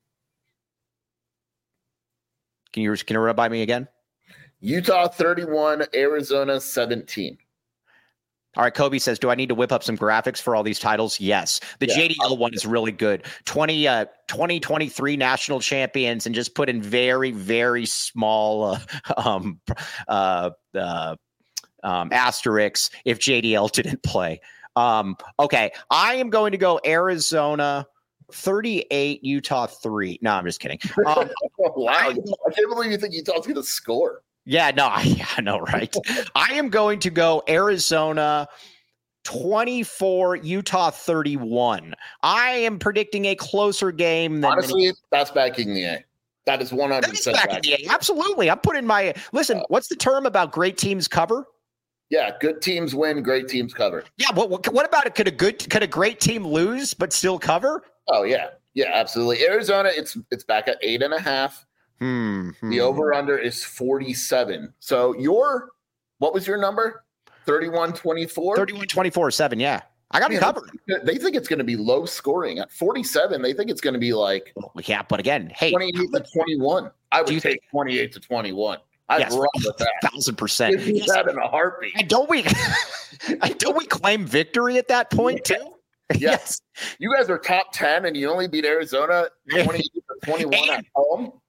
Can you can you run by me again? Utah thirty-one, Arizona seventeen. All right, Kobe says, do I need to whip up some graphics for all these titles? Yes. The Yeah. J D L one is really good. twenty, uh, twenty twenty-three national champions and just put in very, very small uh, um, uh, uh, um, asterisks if J D L didn't play. Um, okay, I am going to go Arizona thirty-eight, Utah three. No, I'm just kidding. Um, Wow. I can't believe you think Utah's going to score. Yeah, no, I, yeah, I know, right? I am going to go Arizona twenty-four, Utah thirty-one. I am predicting a closer game than Honestly, many- that's backing the A. That is one hundred that is percent back in the A. Absolutely. I'm putting my listen. What's the term about great teams cover? Yeah, good teams win, great teams cover. Yeah. What, what, what about it? Could a good could a great team lose but still cover? Oh yeah, yeah, absolutely. Arizona, it's it's back at eight and a half. Hmm. hmm. The over under is forty-seven. So your what was your number? thirty-one twenty-four? thirty-one twenty-four seven. Yeah. I got it Yeah, covered. They think it's going to be low scoring. At forty-seven, they think it's going to be like Yeah, but again, hey, twenty-eight to twenty-one. I Do you would take think- twenty-eight to twenty-one. I'd yes, run with that. thousand percent. Give me Yes. that in a heartbeat. And don't we and don't we claim victory at that point too? Yes. You guys are top ten and you only beat Arizona twenty-eight to twenty-one at home.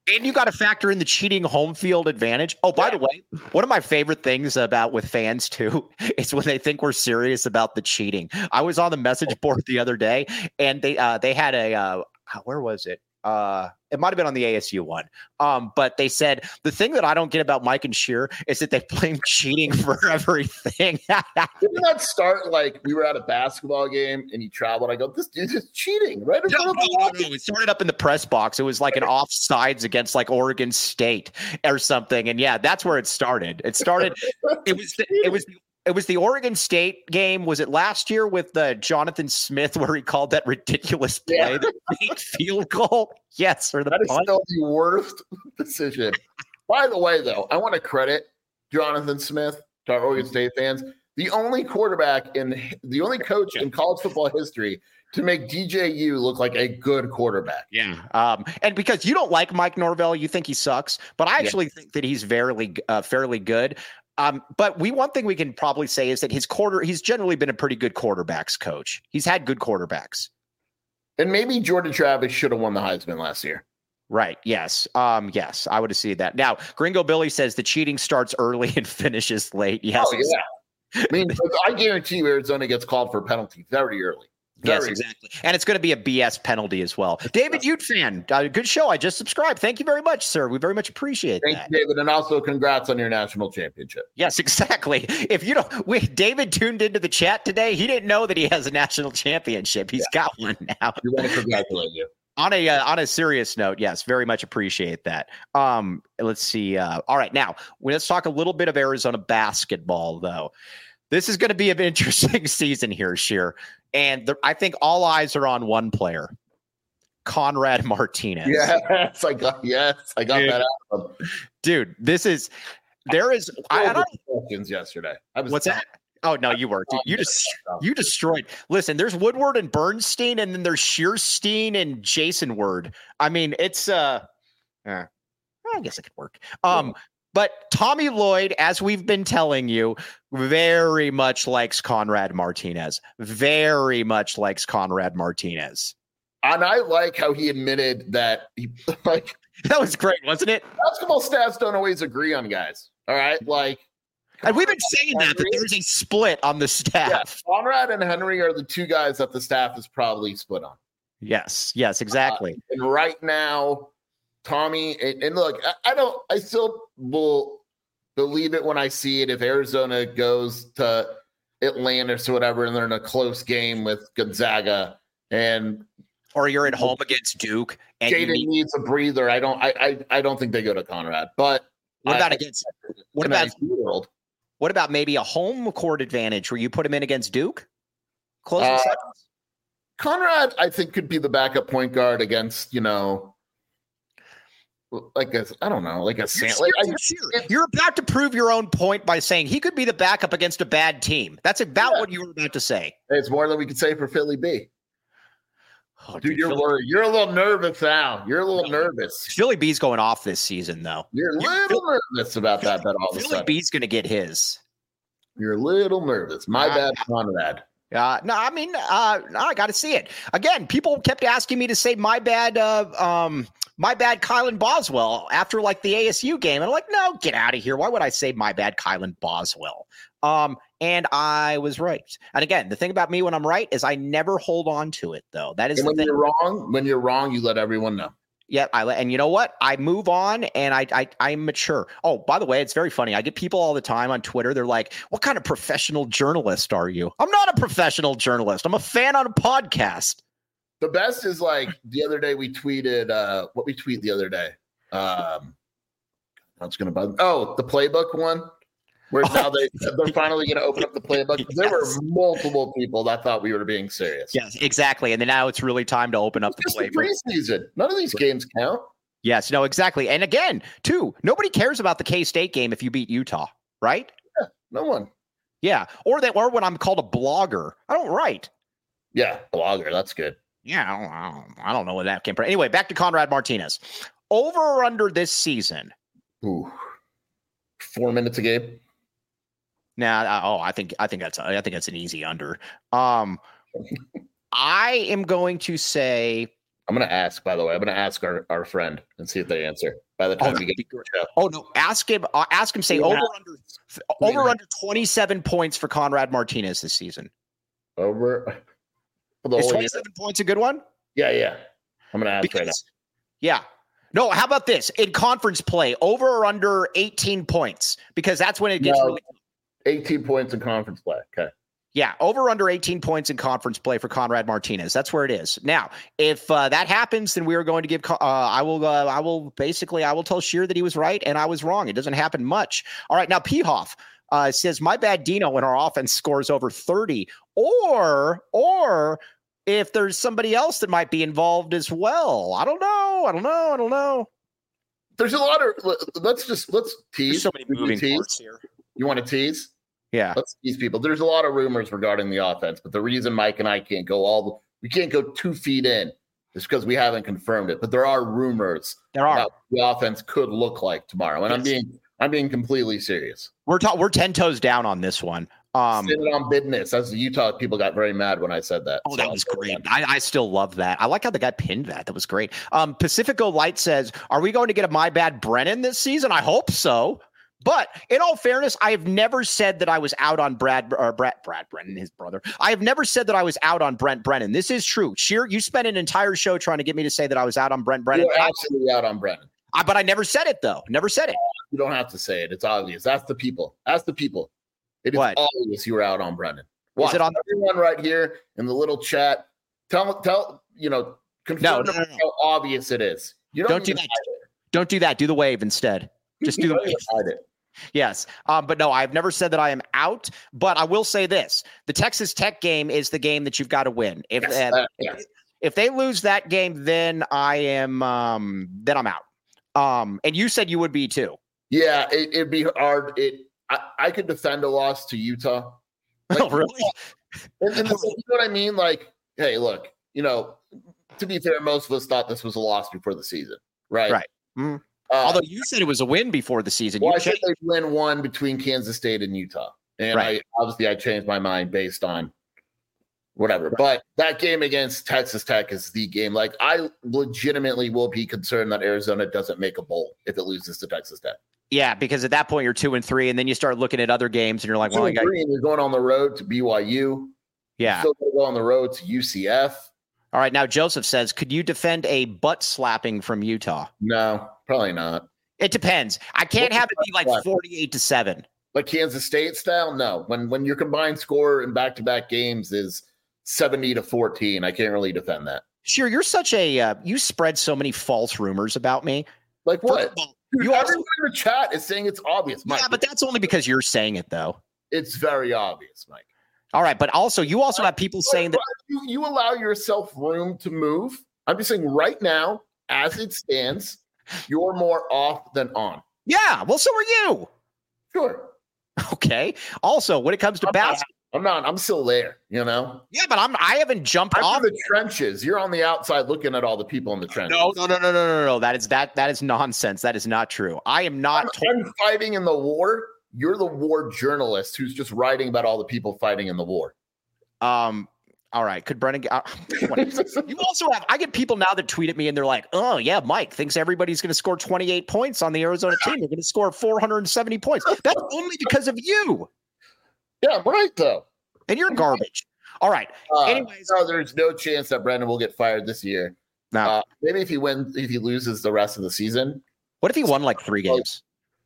And you got to factor in the cheating home field advantage. Oh, by yeah. the way, one of my favorite things about with fans too is when they think we're serious about the cheating. I was on the message board the other day, and they uh, they had a uh, where was it? Uh, it might have been on the A S U one. Um, but they said the thing that I don't get about Mike and Scheer is that they blame cheating for everything. Didn't that start like we were at a basketball game and he traveled? I go, this dude is cheating, right? No, no, no, no. It started up in the press box. It was like an offsides against like Oregon State or something. And yeah, that's where it started. It started. It was. The, it was. It was the Oregon State game. Was it last year with uh, Jonathan Smith where he called that ridiculous play, yeah. the fake field goal? Yes, or the that punt? Is still the worst decision. By the way, though, I want to credit Jonathan Smith to our Oregon State fans. The only quarterback in the only coach in college football history to make D J U look like a good quarterback. Yeah. Um, and because you don't like Mike Norvell, you think he sucks, but I actually yeah. think that he's fairly, uh, fairly good. Um, but we one thing we can probably say is that his quarter he's generally been a pretty good quarterbacks coach. He's had good quarterbacks. And maybe Jordan Travis should have won the Heisman last year. Right. Yes. Um, yes, I would have seen that. Now, Gringo Billy says the cheating starts early and finishes late. Yes. Oh, yeah. I mean, I guarantee you Arizona gets called for a penalty very early. Yes, exactly. And it's going to be a B S penalty as well. David Ute fan, uh, good show. I just subscribed. Thank you very much, sir. We very much appreciate Thank that. you, David. And also congrats on your national championship. Yes, exactly. If you don't, we, David tuned into the chat today. He didn't know that he has a national championship. He's yeah. got one now. We want to congratulate you. On a uh, on a serious note, yes, very much appreciate that. Um, let's see. Uh, all right, now let's talk a little bit of Arizona basketball, though. This is going to be an interesting season here, Scheer. And the, I think all eyes are on one player, Conrad Martinez. Yes, I got yes, I got Dude. that out of him. Dude, this is there is I, I don't questions yesterday. I was what's that? Oh no, you were. Dude, you just you destroyed. Listen, there's Woodward and Bernstein, and then there's Shearstein and Jason Word. I mean, it's uh, uh I guess it could work. Um. Yeah. But Tommy Lloyd, as we've been telling you, very much likes Conrad Martinez. Very much likes Conrad Martinez. And I like how he admitted that he like that was great, wasn't it? Basketball staffs don't always agree on guys. All right. Like and we've been saying that, that there's a split on the staff. Yeah, Conrad and Henry are the two guys that the staff is probably split on. Yes, yes, exactly. Uh, and right now, Tommy, and, and look, I, I don't, I still will believe it when I see it. If Arizona goes to Atlantis or whatever, and they're in a close game with Gonzaga, and or you're at home against Duke, and Jaden need, needs a breather. I don't, I, I, I don't think they go to Conrad. But what about I, against? What about world? What about maybe a home court advantage where you put him in against Duke? Closing uh, seconds. Conrad, I think, could be the backup point guard against, you know. Like a, I don't know, like a you're, like, you're, I, you're about to prove your own point by saying he could be the backup against a bad team. That's about yeah. what you were about to say. It's more than we could say for Philly B. Oh, dude, dude, you're Philly, worried. You're a little nervous now. You're a little no, nervous. Philly B's going off this season, though. You're a little Philly, nervous about that. Bet all of a sudden, Philly B's going to get his. You're a little nervous. My uh, bad, Conrad. Uh, no, I mean, uh, no, I got to see it again. People kept asking me to say my bad. Uh, um, My bad, Kylan Boswell, after like the A S U game. And I'm like, no, get out of here. Why would I say my bad, Kylan Boswell? Um, and I was right. And again, the thing about me when I'm right is I never hold on to it, though. That is and the when thing. you're wrong, when you're wrong, you let everyone know. Yeah, I and you know what? I move on, and I, I I'm mature. Oh, by the way, it's very funny. I get people all the time on Twitter. They're like, "What kind of professional journalist are you?" I'm not a professional journalist. I'm a fan on a podcast. The best is like the other day we tweeted uh, what we tweet the other day. Um, that's gonna bug. Oh, the playbook one, where now they they're finally gonna open up the playbook. Yes. There were multiple people that thought we were being serious. Yes, exactly. And then now it's really time to open up it's the just playbook. The preseason. None of these games count. Yes, no, exactly. And again, too, nobody cares about the K-State game if you beat Utah, right? Yeah, no one. Yeah, or that, or when I'm called a blogger, I don't write. Yeah, blogger. That's good. Yeah, I don't, I don't, I don't know where that came from. Anyway, back to Conrad Martinez. Over or under this season? Ooh, four minutes a game. Nah, uh, oh, I think I think that's I think that's an easy under. Um, I am going to say I'm going to ask, by the way. I'm going to ask our, our friend and see if they answer by the time Oh, we get to the show. Oh no! Ask him. Uh, ask him. Say Yeah. over under over under twenty-seven points for Conrad Martinez this season. Over. For the Is whole year. twenty-seven points a good one? Yeah, yeah. I'm going to ask Because, right now. yeah. No. How about this in conference play? Over or under eighteen points? Because that's when it gets No. really. eighteen points in conference play. Okay. Yeah, over under eighteen points in conference play for Conrad Martinez. That's where it is. Now, if uh, that happens, then we are going to give. Uh, I will. Uh, I will basically. I will tell Sheer that he was right and I was wrong. It doesn't happen much. All right. Now, Pehoff uh, says, "My bad, Dino." When our offense scores over thirty, or or if there's somebody else that might be involved as well. I don't know. I don't know. I don't know. There's a lot of. Let's just let's tease. There's so many We can moving tease. parts here. You want to tease? Yeah. Let's tease people. There's a lot of rumors regarding the offense, but the reason Mike and I can't go all the, we can't go two feet in is because we haven't confirmed it. But there are rumors There are. about what the offense could look like tomorrow, and I'm Yes. being I'm being completely serious. We're ta- we're ten toes down on this one. Um, Sitting on business. As the Utah people got very mad when I said that. Oh, So that was great. I, I still love that. I like how the guy pinned that. That was great. Um, Pacifico Light says, are we going to get a My Bad Brennan this season? I hope so. But in all fairness, I have never said that I was out on Brad or Brad, Brad Brennan, his brother. I have never said that I was out on Brent Brennan. This is true. Sheer, you spent an entire show trying to get me to say that I was out on Brent Brennan. You're absolutely out on Brennan. I, but I never said it, though. Never said it. You don't have to say it. It's obvious. That's the people. That's the people. It is What? obvious you were out on Brennan. Watch. Is it on Everyone right here in the little chat? Tell tell you know confirm No, no, no, no. how obvious it is. You don't, Don't do need to that. hide it. Don't do that. Do the wave instead. Just do You the don't wave. need to hide it. Yes. Um, but no, I've never said that I am out, but I will say this. The Texas Tech game is the game that you've got to win. If Yes, uh, that- yeah. if they lose that game, then I am um, then I'm out. Um, and you said you would be too. Yeah, it, it'd be hard. It I, I could defend a loss to Utah. Like, Oh, really? And, and you know what I mean? Like, hey, look, you know, to be fair, most of us thought this was a loss before the season, right? Right. Mhm. Uh, Although you said it was a win before the season. well, You I said changed- they'd win one between Kansas State and Utah, and Right. I obviously I changed my mind based on whatever. But that game against Texas Tech is the game. Like, I legitimately will be concerned that Arizona doesn't make a bowl if it loses to Texas Tech. yeah, because at that point you're two and three, and then you start looking at other games, and you're like, Two well, I and got three, and you're going on the road to B Y U. yeah. Still going to go on the road to U C F. All right. Now Joseph says, could you defend a butt slapping from Utah? No, probably not. It depends. I can't What's have it be like butt slap? forty-eight to seven. Like Kansas State style, no. When when your combined score in back to back games is seventy to fourteen, I can't really defend that. Sure, you're such a uh, you spread so many false rumors about me. Like First what? of all, Dude, you also, everyone in the chat is saying it's obvious, Mike. yeah, but that's only because you're saying it, though. It's very obvious, Mike. All right, but also you also have people saying that. you, you allow yourself room to move. I'm just saying right now, as it stands, you're more off than on. Yeah, well, so are you. Sure. Okay. Also, when it comes to I'm not, basketball, I'm not. I'm still there. You know. yeah, but I'm I haven't jumped I'm off. in the trenches. You're on the outside looking at all the people in the trenches. No, no, no, no, no, no, no. That is that that is nonsense. That is not true. I am not. I'm, I'm fighting in the war. You're the war journalist who's just writing about all the people fighting in the war. Um. All right. Could Brennan? Uh, you also have. I get people now that tweet at me and they're like, "Oh yeah, Mike thinks everybody's going to score twenty-eight points on the Arizona team. They're going to score four hundred seventy points. That's only because of you, Yeah, I'm right though. and you're garbage." All right. Uh, Anyways, no, there's no chance that Brendan will get fired this year. now, Uh, maybe if he wins, if he loses the rest of the season, what if he won like three games?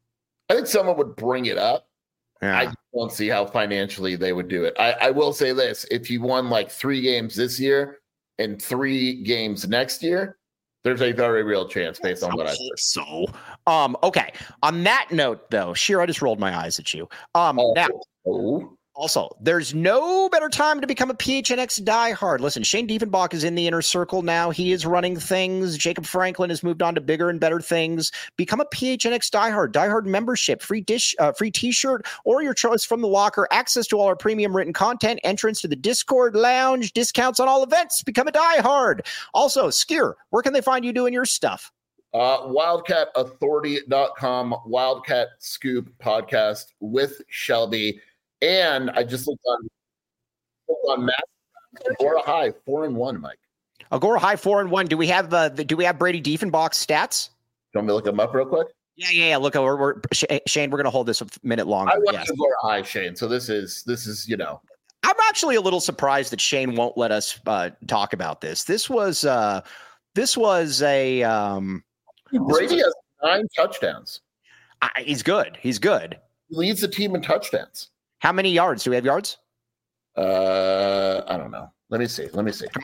I think someone would bring it up. Yeah. I don't see how financially they would do it. I, I will say this: if he won like three games this year and three games next year, there's a very real chance based on what I said. So, um, okay. On that note, though, Sheer, I just rolled my eyes at you. Um, Oh, now, oh. also, there's no better time to become a P H N X diehard. Listen, Shane Diefenbach is in the inner circle now. He is running things. Jacob Franklin has moved on to bigger and better things. Become a P H N X diehard. Diehard membership, free dish, uh, free T-shirt, or your choice from the locker. Access to all our premium written content. Entrance to the Discord lounge. Discounts on all events. Become a diehard. Also, Skier, where can they find you doing your stuff? Uh, wildcat authority dot com, Wildcat Scoop podcast with Shelby. And I just looked on, looked on Matt. Or a high, four and one, Mike. Agora high four and one. Do we have uh, the, do we have Brady Diefenbach's stats? You want me to look them up real quick? Yeah, yeah, yeah. Look, we're, we're Shane. We're going to hold this a minute longer. I want yes. Agora high, Shane. So this is this is you know. I'm actually a little surprised that Shane won't let us uh, talk about this. This was uh, this was a um, Brady has nine touchdowns. I, he's good. He's good. He leads the team in touchdowns. How many yards? Do we have yards? Uh, I don't know. Let me see. Let me see.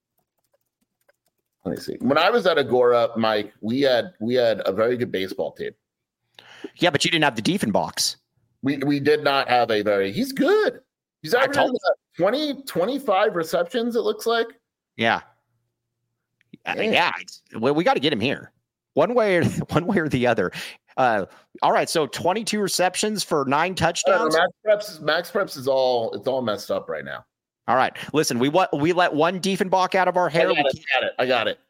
Let me see. When I was at Agora, Mike, we had we had a very good baseball team. Yeah, but you didn't have the Diefenbachs. We we did not have a very. He's good. He's averaging twenty, twenty-five receptions. It looks like. Yeah. Yeah. yeah well, we got to get him here, one way or one way or the other. Uh, all right. So twenty-two receptions for nine touchdowns. Uh, Max Preps, Max Preps is all. It's all messed up right now. All right. Listen, we what we let one Diefenbach out of our hair. I got, it, I got it. I got it.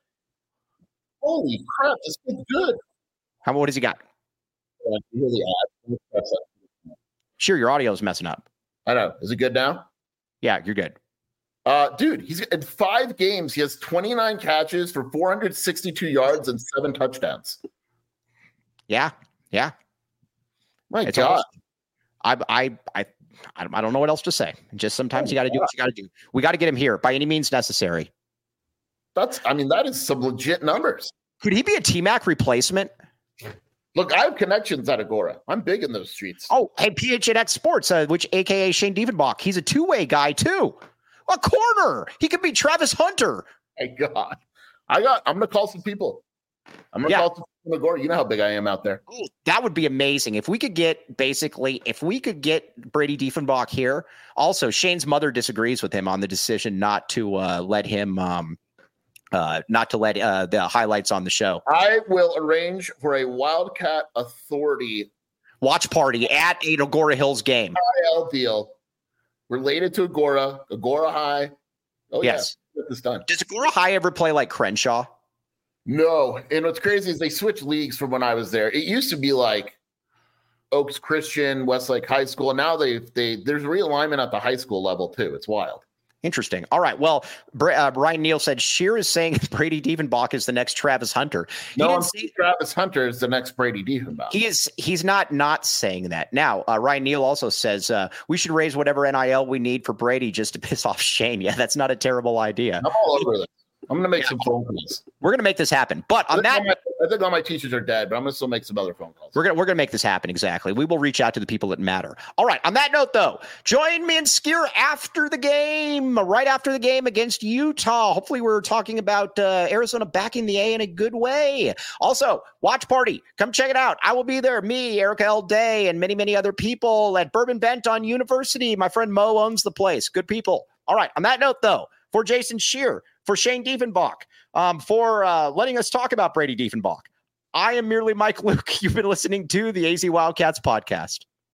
Holy crap! This kid's good. How what has he got? Uh, really odd. Sure, your audio is messing up. I know. Is it good now? Yeah, you're good. Uh, dude, he's in five games. He has twenty-nine catches for four hundred sixty-two yards and seven touchdowns. Yeah, yeah. My it's God, almost, I, I, I, I don't know what else to say. Just sometimes oh, you got to do what you got to do. We got to get him here by any means necessary. That's, I mean, that is some legit numbers. Could he be a T-Mac replacement? Look, I have connections at Agora. I'm big in those streets. Oh, hey, P H N X Sports, uh, which A K A Shane Diefenbach. He's a two-way guy too. A corner. He could be Travis Hunter. My God, I got. I'm gonna call some people. I'm gonna yeah. call some people at Agora. You know how big I am out there. Oh, that would be amazing if we could get basically if we could get Brady Diefenbach here. Also, Shane's mother disagrees with him on the decision not to uh, let him. Um, Uh, not to let uh, the highlights on the show. I will arrange for a Wildcat Authority watch party at an Agora Hills game. I L deal related to Agora, Agora High. Oh, yes. Yeah, get this done. Does Agora High ever play like Crenshaw? No. And what's crazy is they switched leagues from when I was there. It used to be like Oaks Christian, Westlake High School. Now they they there's realignment at the high school level too. It's wild. Interesting. All right. Well, uh, Brian Neal said Shear is saying Brady Diefenbach is the next Travis Hunter. He no, say, Travis Hunter is the next Brady Diefenbach. He is. He's not not saying that. Now, uh, Ryan Neal also says uh, we should raise whatever N I L we need for Brady just to piss off Shane. Yeah, that's not a terrible idea. I'm all over this. I'm going to make yeah. some phone calls. We're going to make this happen. But on that, my, I think all my teachers are dead, but I'm going to still make some other phone calls. We're going we're going to make this happen. Exactly. We will reach out to the people that matter. All right. On that note, though, join me and Skier after the game, right after the game against Utah. Hopefully, we're talking about uh, Arizona backing the A in a good way. Also, watch party. Come check it out. I will be there. Me, Erica L. Day, and many, many other people at Bourbon Bent on University. My friend Mo owns the place. Good people. All right. On that note, though, for Jason Shear, for Shane Diefenbach, um, for uh, letting us talk about Brady Diefenbach, I am merely Mike Luke. You've been listening to the A Z Wildcats podcast.